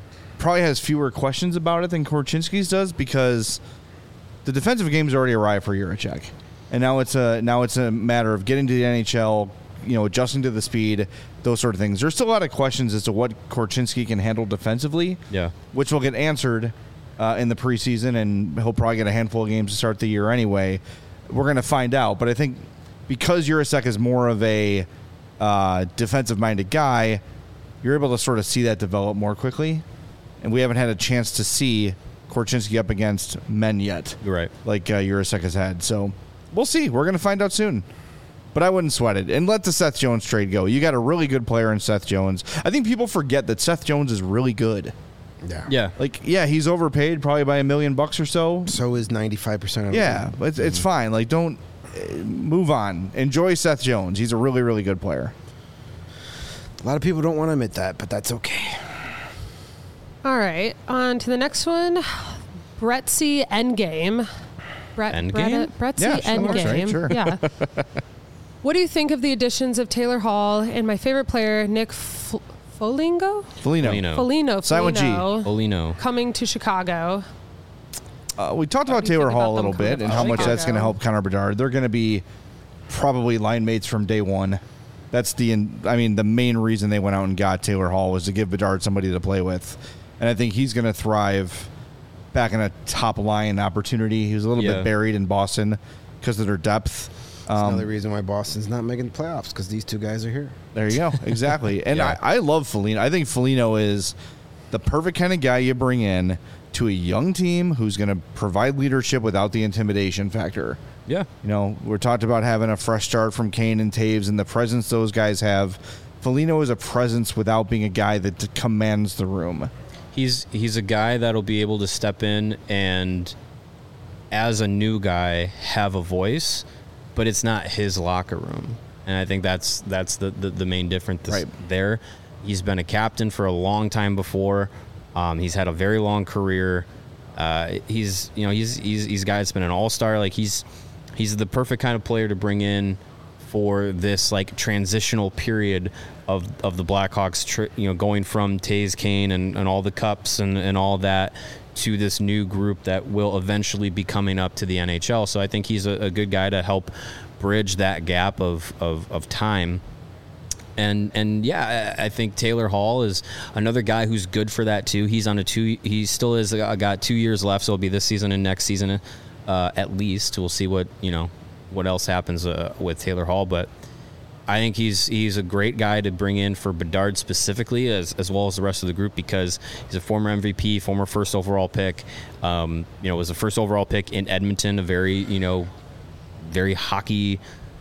probably has fewer questions about it than Korchinski's does because the defensive game's already arrived for Jiricek. And now it's a matter of getting to the NHL, adjusting to the speed, those sort of things. There's still a lot of questions as to what Korchinski can handle defensively, which will get answered in the preseason, and he'll probably get a handful of games to start the year anyway. We're going to find out. But I think because Jiricek is more of a defensive-minded guy, you're able to sort of see that develop more quickly. And we haven't had a chance to see Korchinski up against men yet. Right. Like Jiricek has had. So we'll see. We're going to find out soon. But I wouldn't sweat it. And let the Seth Jones trade go. You got a really good player in Seth Jones. I think people forget that Seth Jones is really good. Yeah. He's overpaid probably by $1 million or so. So is 95% of it. Yeah, but it's fine. Like, don't move on. Enjoy Seth Jones. He's a really, really good player. A lot of people don't want to admit that, but that's okay. All right, on to the next one. Brettsy Endgame. Endgame? Brettsy Yeah, Endgame. right, sure. Yeah. What do you think of the additions of Taylor Hall and my favorite player, Nick Foligno? Silent G. Foligno. Coming to Chicago. We talked about Taylor Hall a little bit and how much that's going to help Connor Bedard. They're going to be probably line mates from day one. That's the main reason they went out and got Taylor Hall was to give Bedard somebody to play with. And I think he's going to thrive back in a top line opportunity. He was a little bit buried in Boston because of their depth. That's another reason why Boston's not making the playoffs, because these two guys are here. There you go. Exactly. And I love Foligno. I think Foligno is the perfect kind of guy you bring in to a young team who's going to provide leadership without the intimidation factor. Yeah. We're talked about having a fresh start from Kane and Taves and the presence those guys have. Foligno is a presence without being a guy that commands the room. He's a guy that'll be able to step in and, as a new guy, have a voice, but it's not his locker room. And I think that's the main difference there. He's been a captain for a long time before. He's had a very long career. He's a guy that's been an all-star. Like he's the perfect kind of player to bring in for this like transitional period of the Blackhawks, going from Taves, Kane, and all the cups and all that to this new group that will eventually be coming up to the NHL. So I think he's a good guy to help bridge that gap of time. And yeah, I think Taylor Hall is another guy who's good for that too. He's on he still is got 2 years left, so it'll be this season and next season at least. We'll see what else happens with Taylor Hall, but I think he's a great guy to bring in for Bedard specifically, as well as the rest of the group, because he's a former MVP, former first overall pick. Was a first overall pick in Edmonton, a very very hockey.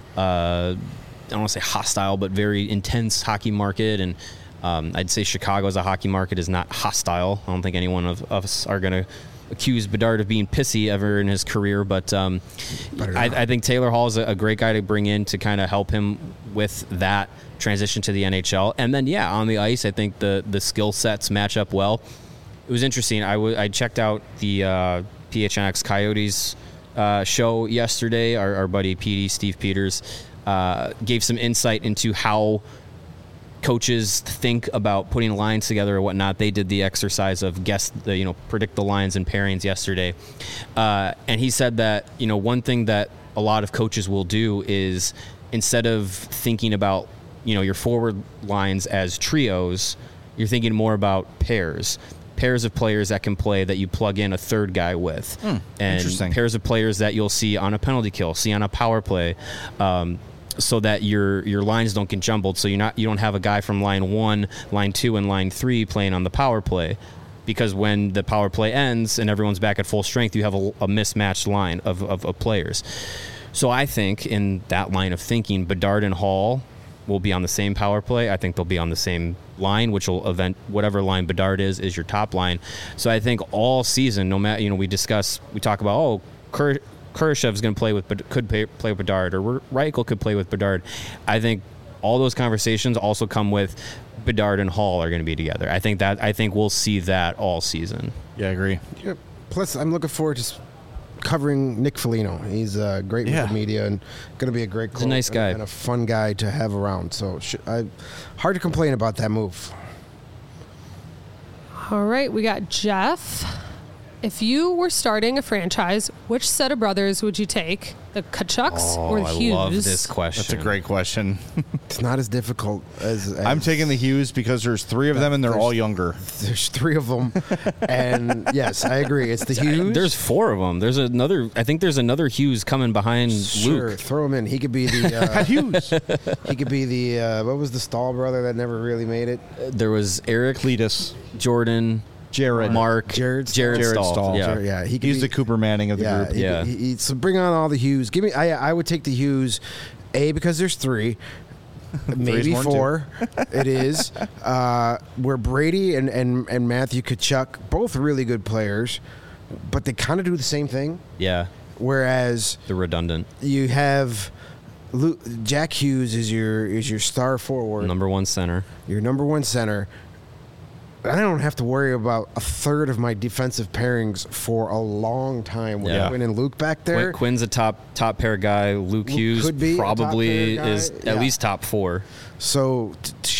I don't want to say hostile, but very intense hockey market, and I'd say Chicago as a hockey market is not hostile. I don't think anyone of us are going to accuse Bedard of being pissy ever in his career, but I think Taylor Hall is a great guy to bring in to kind of help him with that transition to the NHL. And then, on the ice, I think the skill sets match up well. It was interesting. I checked out the PHNX Coyotes show yesterday. Our buddy PD, Steve Peters, gave some insight into how coaches think about putting lines together or whatnot. They did the exercise of predict the lines and pairings yesterday. And he said that, one thing that a lot of coaches will do is, instead of thinking about, your forward lines as trios, you're thinking more about pairs of players that can play, that you plug in a third guy with, and pairs of players that you'll see on a penalty kill, see on a power play, so that your lines don't get jumbled. So you don't have a guy from line 1, line 2, and line 3 playing on the power play, because when the power play ends and everyone's back at full strength, you have a mismatched line of players. So I think in that line of thinking, Bedard and Hall will be on the same power play. I think they'll be on the same line, which will whatever line Bedard is your top line. So I think all season, no matter, we talk about, Kurashev's going to could play with Bedard, or Reichel could play with Bedard. I think all those conversations also come with Bedard and Hall are going to be together. I think we'll see that all season. Yeah, I agree. Yep. Plus, I'm looking forward to covering Nick Foligno. He's great with the media and going to be a great He's a nice guy and a fun guy to have around. So hard to complain about that move. All right, we got Jeff. If you were starting a franchise, which set of brothers would you take? The Kachucks or the Hughes? I love this question. That's a great question. It's not as difficult as I'm taking the Hughes because there's 3 of them and they're all younger. There's 3 of them, and yes, I agree. It's the Hughes. There's 4 of them. There's another. I think there's anher Hughes coming behind Sure, Luke. throw him in. He could be the Hughes. he could be the what was the Stahl brother that never really made it? There was Eric, Cletus. Jordan, Jared. Mark, Jared Stahl. Stahl. Yeah. Yeah, he could He's be, the Cooper Manning of the yeah, group. Yeah. So bring on all the Hughes. Give me. I would take the Hughes, because there's 3, maybe more than 4. It is where Brady and Matthew Tkachuk, both really good players, but they kind of do the same thing. Yeah, Whereas they're redundant. you have Jack Hughes is your star forward, Number 1 center. your number 1 center. I don't have to worry about a third of my defensive pairings for a long time with Yeah. Quinn and Luke back there. Quinn's a top pair guy. Luke Hughes could be a top probably pair guy. is Yeah. at least top 4. So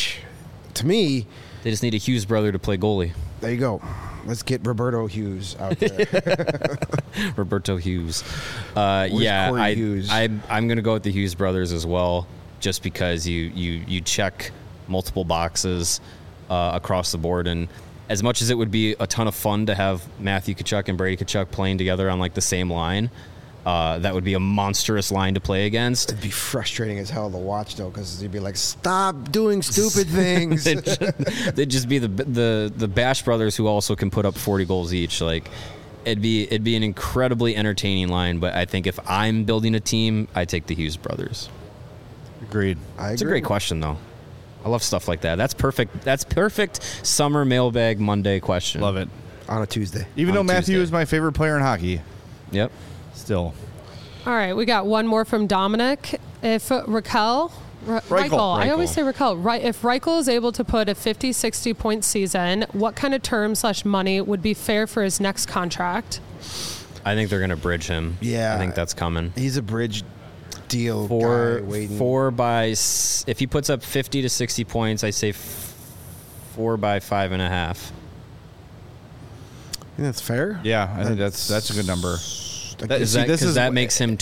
to me, They just need a Hughes brother to play goalie. there you go. Let's get Roberto Hughes out there. Roberto Hughes. Corey Hughes? I'm going to go with the Hughes brothers as well, just because you check multiple boxes across the board. And as much as it would be a ton of fun to have Matthew Tkachuk and Brady Tkachuk playing together on like the same line, that would be a monstrous line to play against. It'd be frustrating as hell to watch though, because you'd be like, "Stop doing stupid things." They'd just be the Bash brothers who also can put up 40 goals each. Like it'd be an incredibly entertaining line. But I think if I'm building a team, I take the Hughes brothers. Agreed. I It's a agree. great question though. I love stuff like that. That's perfect. That's perfect summer mailbag Monday question. Love it. On a Tuesday. Even On though Matthew Tuesday. is my favorite player in hockey, Yep. still. All right, we got one more from Dominic. If Reichel, I always say Reichel. Right, if Reichel is able to put a 50, 60 point season, what kind of term/money would be fair for his next contract? I think they're gonna bridge him. Yeah. I think that's coming. He's a bridge deal guy waiting. If he puts up 50 to 60 points, I say 4 by 5.5. I think that's fair. Yeah, I think that's a good number. That- Is see, that this because is that wh- makes him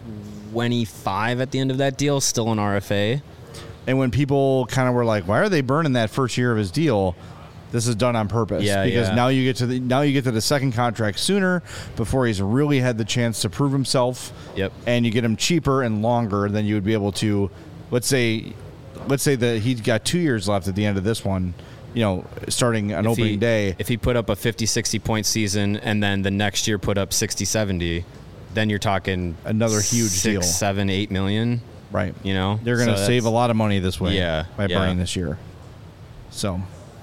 25 at the end of that deal, still an RFA? And when people kind of were like, "Why are they burning that first year of his deal?" This is done on purpose. Yeah, because yeah. now you get to the second contract sooner, before he's really had the chance to prove himself. Yep. And you get him cheaper and longer than you would be able to. Let's say that he's got 2 years left at the end of this one. You know, starting on opening day. If he put up a 50, 60 point season and then the next year put up 60, 70, then you're talking Another huge 6, deal. 7, 8 million. Right. You know, They're going to So save a that's- lot of money this way. Yeah, By yeah. burning this year. So.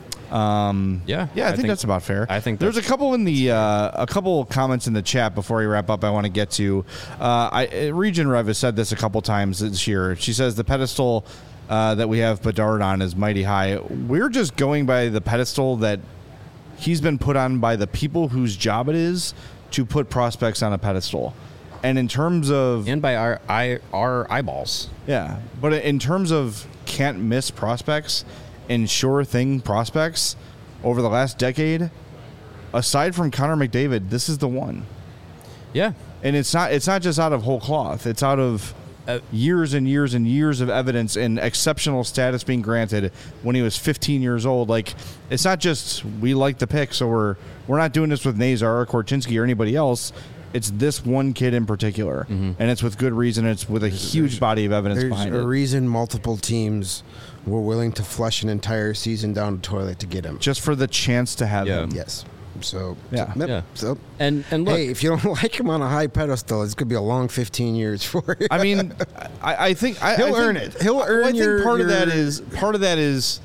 Yeah, Yeah, I think that's about fair. I think there's a that's- couple in the a couple comments in the chat before we wrap up. I want to get to. Region Rev has said this a couple times this year. She says the pedestal that we have Bedard on is mighty high. We're just going by the pedestal that he's been put on by the people whose job it is to put prospects on a pedestal. And in terms of and by our eyeballs. yeah, but in terms of can't miss prospects and sure thing prospects over the last decade, aside from Connor McDavid, this is the one. Yeah. And it's not just out of whole cloth. It's out of years and years and years of evidence and exceptional status being granted when he was 15 years old. Like, it's not just we like the pick, so we're not doing this with Nazar or Korchinski or anybody else. It's this one kid in particular, and it's with good reason. It's with a huge body of evidence There's behind a it. reason multiple teams were willing to flush an entire season down the toilet to get him. Just for the chance to have Yeah. him. Yes. So Yeah. yep. Yeah. So And look, hey, if you don't like him on a high pedestal, it's gonna be a long 15 years for you. I mean, I think He'll earn it. He'll earn I think your- part of your- that is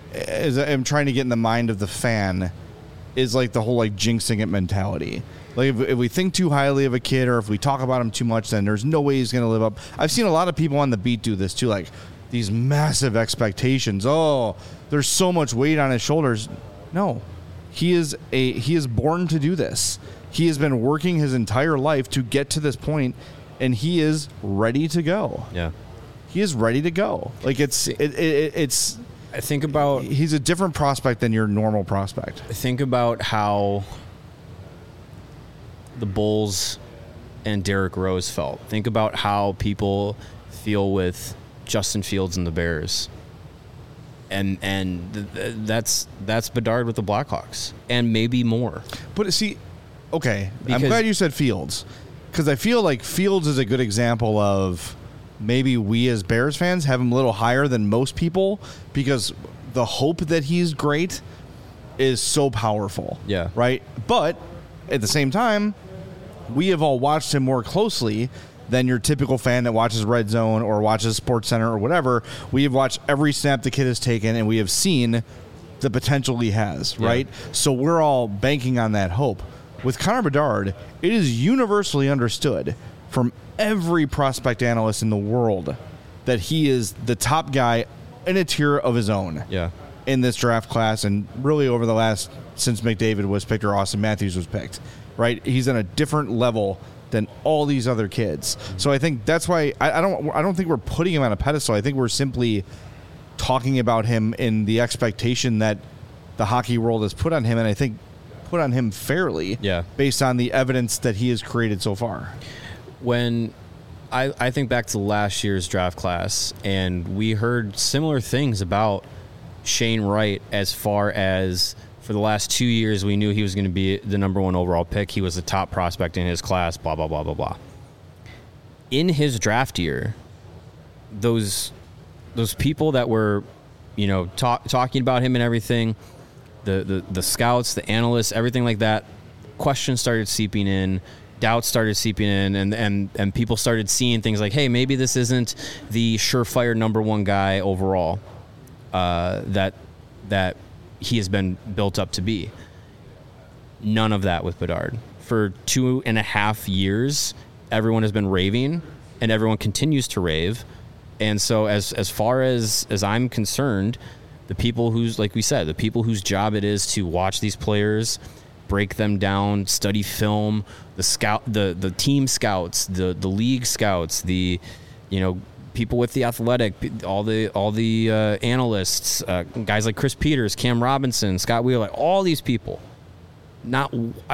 I'm trying to get in the mind of the fan is like the whole like jinxing it mentality. Like if we think too highly of a kid or if we talk about him too much, then there's no way he's going to live up. I've seen a lot of people on the beat do this too, like these massive expectations. Oh, there's so much weight on his shoulders. No, he is born to do this. He has been working his entire life to get to this point, and he is ready to go. yeah. He is ready to go. Like it's Think about he's a different prospect than your normal prospect. Think about how the Bulls and Derrick Rose felt. Think about how people feel with Justin Fields and the Bears. And that's Bedard with the Blackhawks, and maybe more. But see, okay, Because- I'm glad you said Fields, because I feel like Fields is a good example of maybe we as Bears fans have him a little higher than most people, because the hope that he's great is so powerful. Yeah. Right? But at the same time, we have all watched him more closely than your typical fan that watches Red Zone or watches SportsCenter or whatever. We have watched every snap the kid has taken, and we have seen the potential he has, right? So we're all banking on that hope. With Connor Bedard, it is universally understood from every prospect analyst in the world that he is the top guy in a tier of his own in this draft class, and really over the last, since McDavid was picked or Austin Matthews was picked, right? He's on a different level than all these other kids. So I think that's why I don't think we're putting him on a pedestal. I think we're simply talking about him in the expectation that the hockey world has put on him, and I think put on him fairly based on the evidence that he has created so far. When I think back to last year's draft class, and we heard similar things about Shane Wright as far as for the last 2 years we knew he was going to be the number 1 overall pick. He was the top prospect in his class, blah, blah, blah, blah, blah. In his draft year, those people that were, talking about him and everything, the scouts, the analysts, everything like that, questions started seeping in, doubts started seeping in, and people started seeing things like, hey, maybe this isn't the surefire number 1 guy overall that he has been built up to be. None of that with Bedard. For 2.5 years, everyone has been raving, and everyone continues to rave. And so as far as I'm concerned, the people who's, like we said, the people whose job it is to watch these players, break them down, study film, the team scouts, the league scouts, the people with the Athletic, all the analysts, guys like Chris Peters, Cam Robinson, Scott Wheeler, all these people, not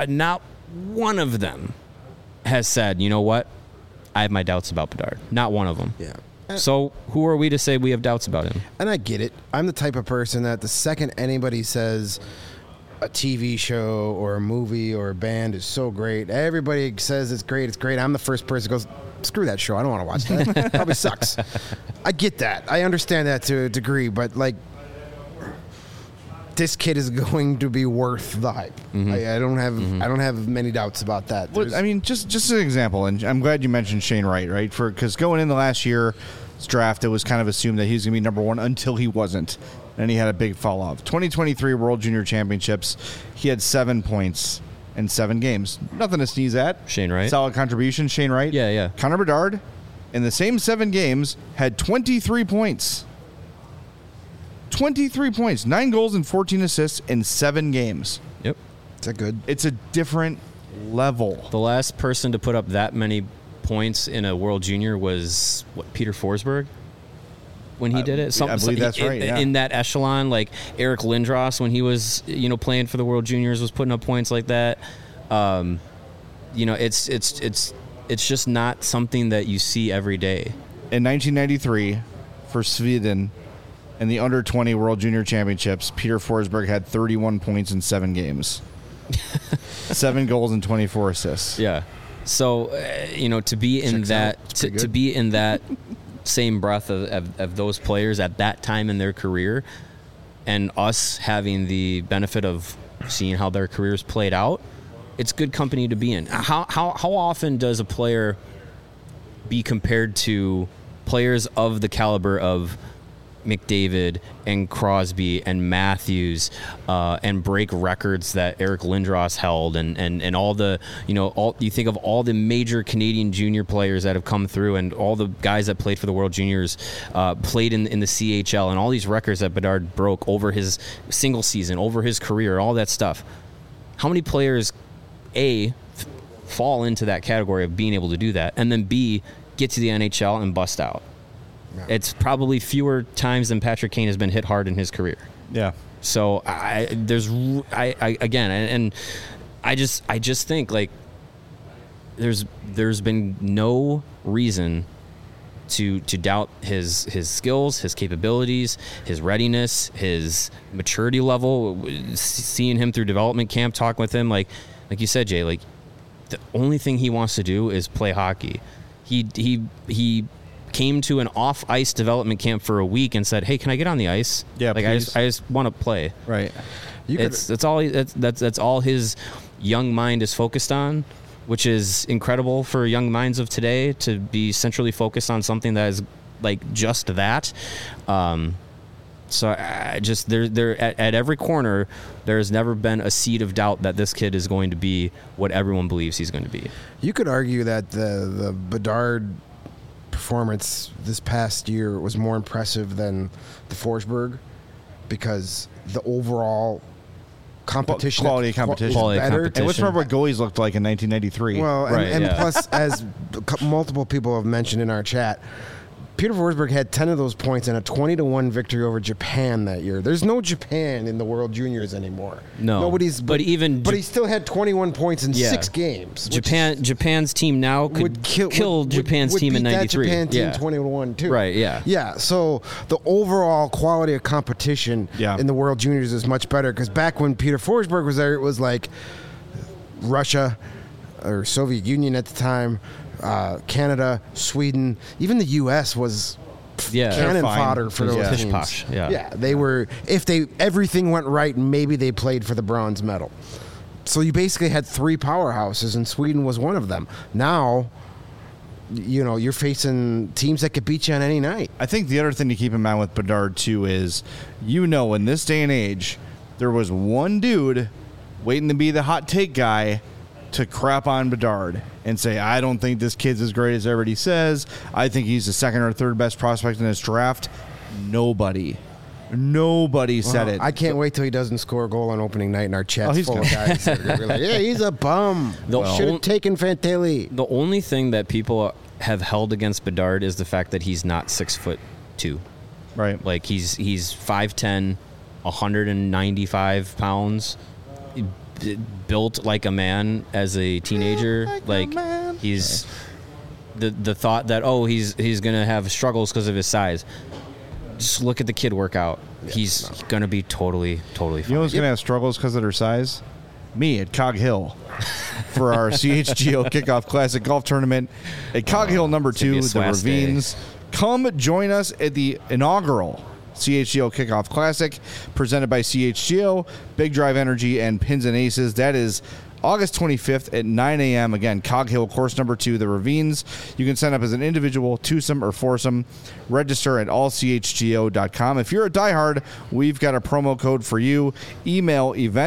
one of them has said, you know what, I have my doubts about Bedard. Not one of them. Yeah. So who are we to say we have doubts about him? And I get it. I'm the type of person that the second anybody says a TV show or a movie or a band is so great, everybody says it's great, I'm the first person who goes, screw that show, I don't want to watch that. Probably sucks. I get that. I understand that to a degree, but like, this kid is going to be worth the hype. I don't have many doubts about that. Well, I mean, just an example, and I'm glad you mentioned Shane Wright, right? Because going in the last year's draft, it was kind of assumed that he was going to be number 1 until he wasn't, and he had a big fall off. 2023 World Junior Championships, he had 7 points in 7 games. Nothing to sneeze at. Shane Wright. Solid contribution, Shane Wright. Yeah. Connor Bedard, in the same 7 games, had 23 points. 23 points, 9 goals and 14 assists in 7 games. Yep. Is that good? It's a different level. The last person to put up that many points in a World Junior was, Peter Forsberg? When he did it? I believe that's right, yeah. In that echelon, like Eric Lindros, when he was, playing for the World Juniors, was putting up points like that. It's just not something that you see every day. In 1993, for Sweden, in the under-20 World Junior Championships, Peter Forsberg had 31 points in 7 games. 7 goals and 24 assists. Yeah. So, to be in Checks that out. to be in that same breath of those players at that time in their career, and us having the benefit of seeing how their careers played out, it's good company to be in. How often does a player be compared to players of the caliber of McDavid and Crosby and Matthews, and break records that Eric Lindros held, and all the you think of all the major Canadian junior players that have come through, and all the guys that played for the World Juniors, played in the CHL, and all these records that Bedard broke over his single season, over his career, all that stuff. How many players fall into that category of being able to do that, and then B, get to the NHL and bust out? It's probably fewer times than Patrick Kane has been hit hard in his career. Yeah. So I just think like there's been no reason to doubt his skills, his capabilities, his readiness, his maturity level. Seeing him through development camp, talking with him, like you said, Jay, like the only thing he wants to do is play hockey. He came to an off-ice development camp for a week and said, "Hey, can I get on the ice? Yeah, like I just want to play." Right. That's all his young mind is focused on, which is incredible for young minds of today to be centrally focused on something that is like just that. So I just there at every corner, there has never been a seed of doubt that this kid is going to be what everyone believes he's going to be. You could argue that the Bedard performance this past year was more impressive than the Forsberg because the overall competition, quality of competition, Quality of better. competition. And let's remember what goalies looked like in 1993. Well, Right, and yeah. plus, as multiple people have mentioned in our chat, Peter Forsberg had 10 of those points and a 20-1 victory over Japan that year. There's no Japan in the World Juniors anymore. No, Nobody's. but he still had 21 points in 6 games. which Japan's team now could would kill Japan's would team in beat that '93. Japan team Yeah. 21 too. Right, yeah. Yeah. So the overall quality of competition Yeah. in the World Juniors is much better because back when Peter Forsberg was there, it was like Russia or Soviet Union at the time, Canada, Sweden, even the U.S. was Yeah. cannon fine. fodder for those Yeah. teams. Pish-posh, yeah. They were. If everything went right, maybe they played for the bronze medal. So you basically had 3 powerhouses, and Sweden was one of them. Now, you're facing teams that could beat you on any night. I think the other thing to keep in mind with Bedard too is, in this day and age, there was one dude waiting to be the hot take guy to crap on Bedard and say, I don't think this kid's as great as everybody says. I think he's the second or third best prospect in this draft. Nobody said it. I can't wait till he doesn't score a goal on opening night and our chat's he's full of guys that are gonna be like, yeah, he's a bum. Should have taken Fantilli. The only thing that people have held against Bedard is the fact that he's not 6'2". Right. Like he's 5'10", 195 pounds, built like a man as a teenager. He's the thought that he's gonna have struggles because of his size. Just look at the kid work out. He's gonna be totally fine. You know who's going to have struggles because of their size? Me at Cog Hill for our CHGO Kickoff Classic Golf Tournament at Cog Hill number It's gonna 2, be a the swass day. Ravines. Come join us at the inaugural CHGO Kickoff Classic presented by CHGO, Big Drive Energy, and Pins and Aces. That is August 25th at 9 a.m. Again, Cog Hill, course number 2, the Ravines. You can sign up as an individual, twosome, or foursome. Register at allchgo.com. If you're a diehard, we've got a promo code for you. Email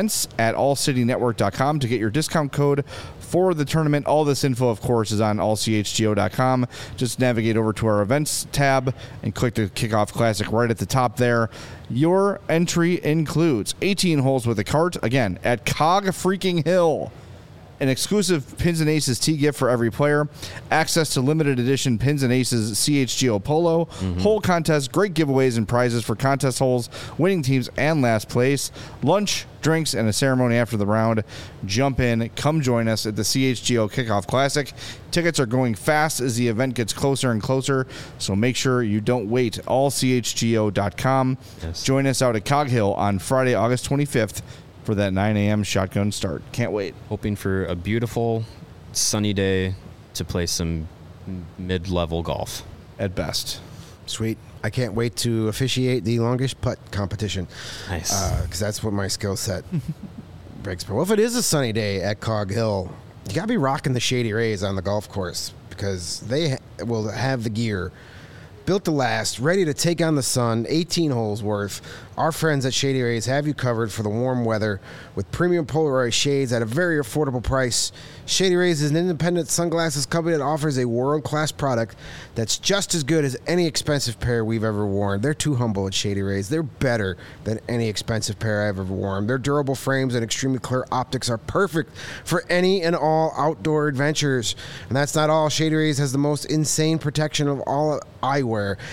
events@allcitynetwork.com to get your discount code for the tournament. All this info, of course, is on allchgo.com. Just navigate over to our events tab and click the Kickoff Classic right at the top there. Your entry includes 18 holes with a cart, again, at Cog freaking Hill. An exclusive Pins and Aces tee gift for every player. Access to limited edition Pins and Aces CHGO Polo. Hole contest, great giveaways and prizes for contest holes, winning teams, and last place. Lunch, drinks, and a ceremony after the round. Jump in. Come join us at the CHGO Kickoff Classic. Tickets are going fast as the event gets closer and closer, so make sure you don't wait. Allchgo.com. Yes. Join us out at Cog Hill on Friday, August 25th. For that 9 a.m. shotgun start. Can't wait. Hoping for a beautiful sunny day to play some mid-level golf. At best. Sweet. I can't wait to officiate the longest putt competition. Nice. Because that's what my skill set breaks. But if it is a sunny day at Cog Hill, you got to be rocking the Shady Rays on the golf course because they will have the gear built to last, ready to take on the sun, 18 holes worth. Our friends at Shady Rays have you covered for the warm weather with premium Polaroid shades at a very affordable price. Shady Rays is an independent sunglasses company that offers a world-class product that's just as good as any expensive pair we've ever worn. They're too humble at Shady Rays. They're better than any expensive pair I've ever worn. Their durable frames and extremely clear optics are perfect for any and all outdoor adventures. And that's not all. Shady Rays has the most insane protection of all eyewear.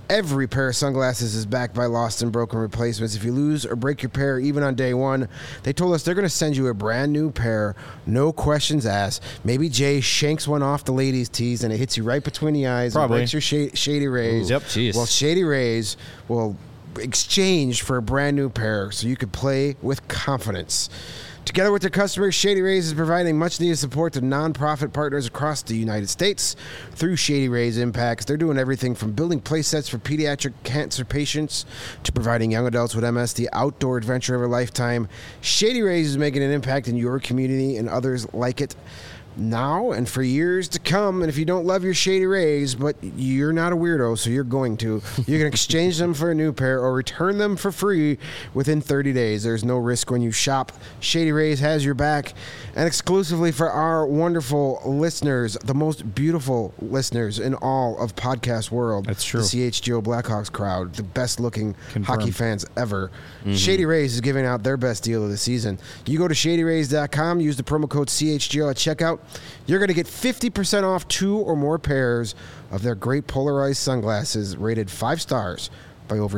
Every pair of sunglasses is backed by lost and broken replacements. If you lose or break your pair even on day one, they told us they're going to send you a brand new pair, no questions asked. Maybe Jay shanks one off the ladies' tees and it hits you right between the eyes Probably. and breaks your Shady Rays. Yep. Jeez. Well, Shady Rays will exchange for a brand new pair so you can play with confidence. Together with their customers, Shady Rays is providing much-needed support to nonprofit partners across the United States. Through Shady Rays Impacts, they're doing everything from building play sets for pediatric cancer patients to providing young adults with MS the outdoor adventure of a lifetime. Shady Rays is making an impact in your community and others like it now and for years to come. And if you don't love your Shady Rays, but you're not a weirdo, so you're going to, you can exchange them for a new pair or return them for free within 30 days. There's no risk when you shop. Shady Rays has your back. And exclusively for our wonderful listeners, the most beautiful listeners in all of podcast world. That's true. The CHGO Blackhawks crowd, the best looking Confirmed. hockey fans ever. Shady Rays is giving out their best deal of the season. You go to shadyrays.com, use the promo code CHGO at checkout. You're going to get 50% off 2 or more pairs of their great polarized sunglasses rated 5 stars by over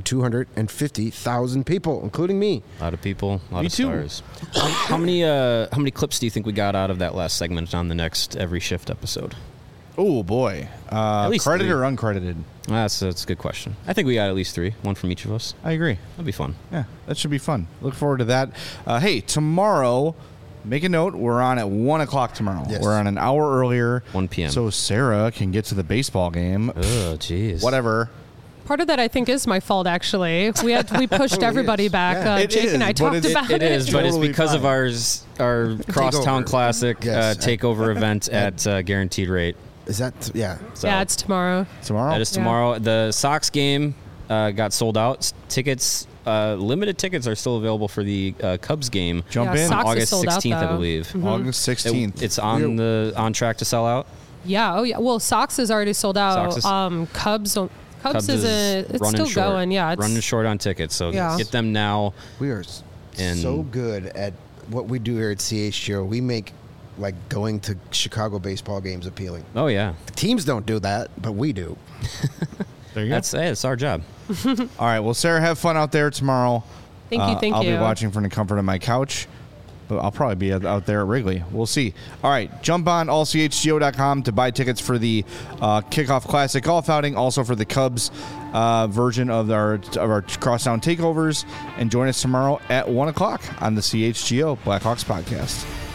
250,000 people, including me. A lot of people, a lot Me of too. stars. How many clips do you think we got out of that last segment on the next Every Shift episode? Oh, boy. At least Credited 3. or uncredited? That's a good question. I think we got at least 3, one from each of us. I agree. That'd be fun. Yeah, that should be fun. Look forward to that. Hey, tomorrow, make a note, we're on at 1 o'clock tomorrow. Yes. We're on an hour earlier. 1 p.m. So Sarah can get to the baseball game. Oh, jeez. Whatever. Part of that, I think, is my fault. Actually, we pushed everybody back. Yeah. It Jake is, and I but talked it's- about It is, but it's Totally because of fine. our Crosstown Takeover. Classic Yes. takeover event at guaranteed rate. Is that, yeah. So Yeah, it's tomorrow. Tomorrow? that is tomorrow. The Sox game got sold out. Tickets, limited tickets, are still available for the Cubs game. Jump Yeah, in. Sox is August sold out, 16th, I though. believe. August 16th. It's on track to sell out. Yeah. Oh, yeah. Well, Sox is already sold out. Sox is- Cubs is it's running still short. going. Yeah, it's running short on tickets. So Yeah. get them now. We are And- so good at what we do here at CHGO. We make like going to Chicago baseball games appealing. Oh yeah, The teams don't do that, but we do. There you go. it's our job. All right. Well, Sarah, have fun out there tomorrow. Thank you. Thank I'll you. be watching from the comfort of my couch, but I'll probably be out there at Wrigley. We'll see. All right. Jump on allchgo.com to buy tickets for the Kickoff Classic Golf Outing, also for the Cubs version of our Crosstown Takeovers, and join us tomorrow at 1 o'clock on the CHGO Blackhawks podcast.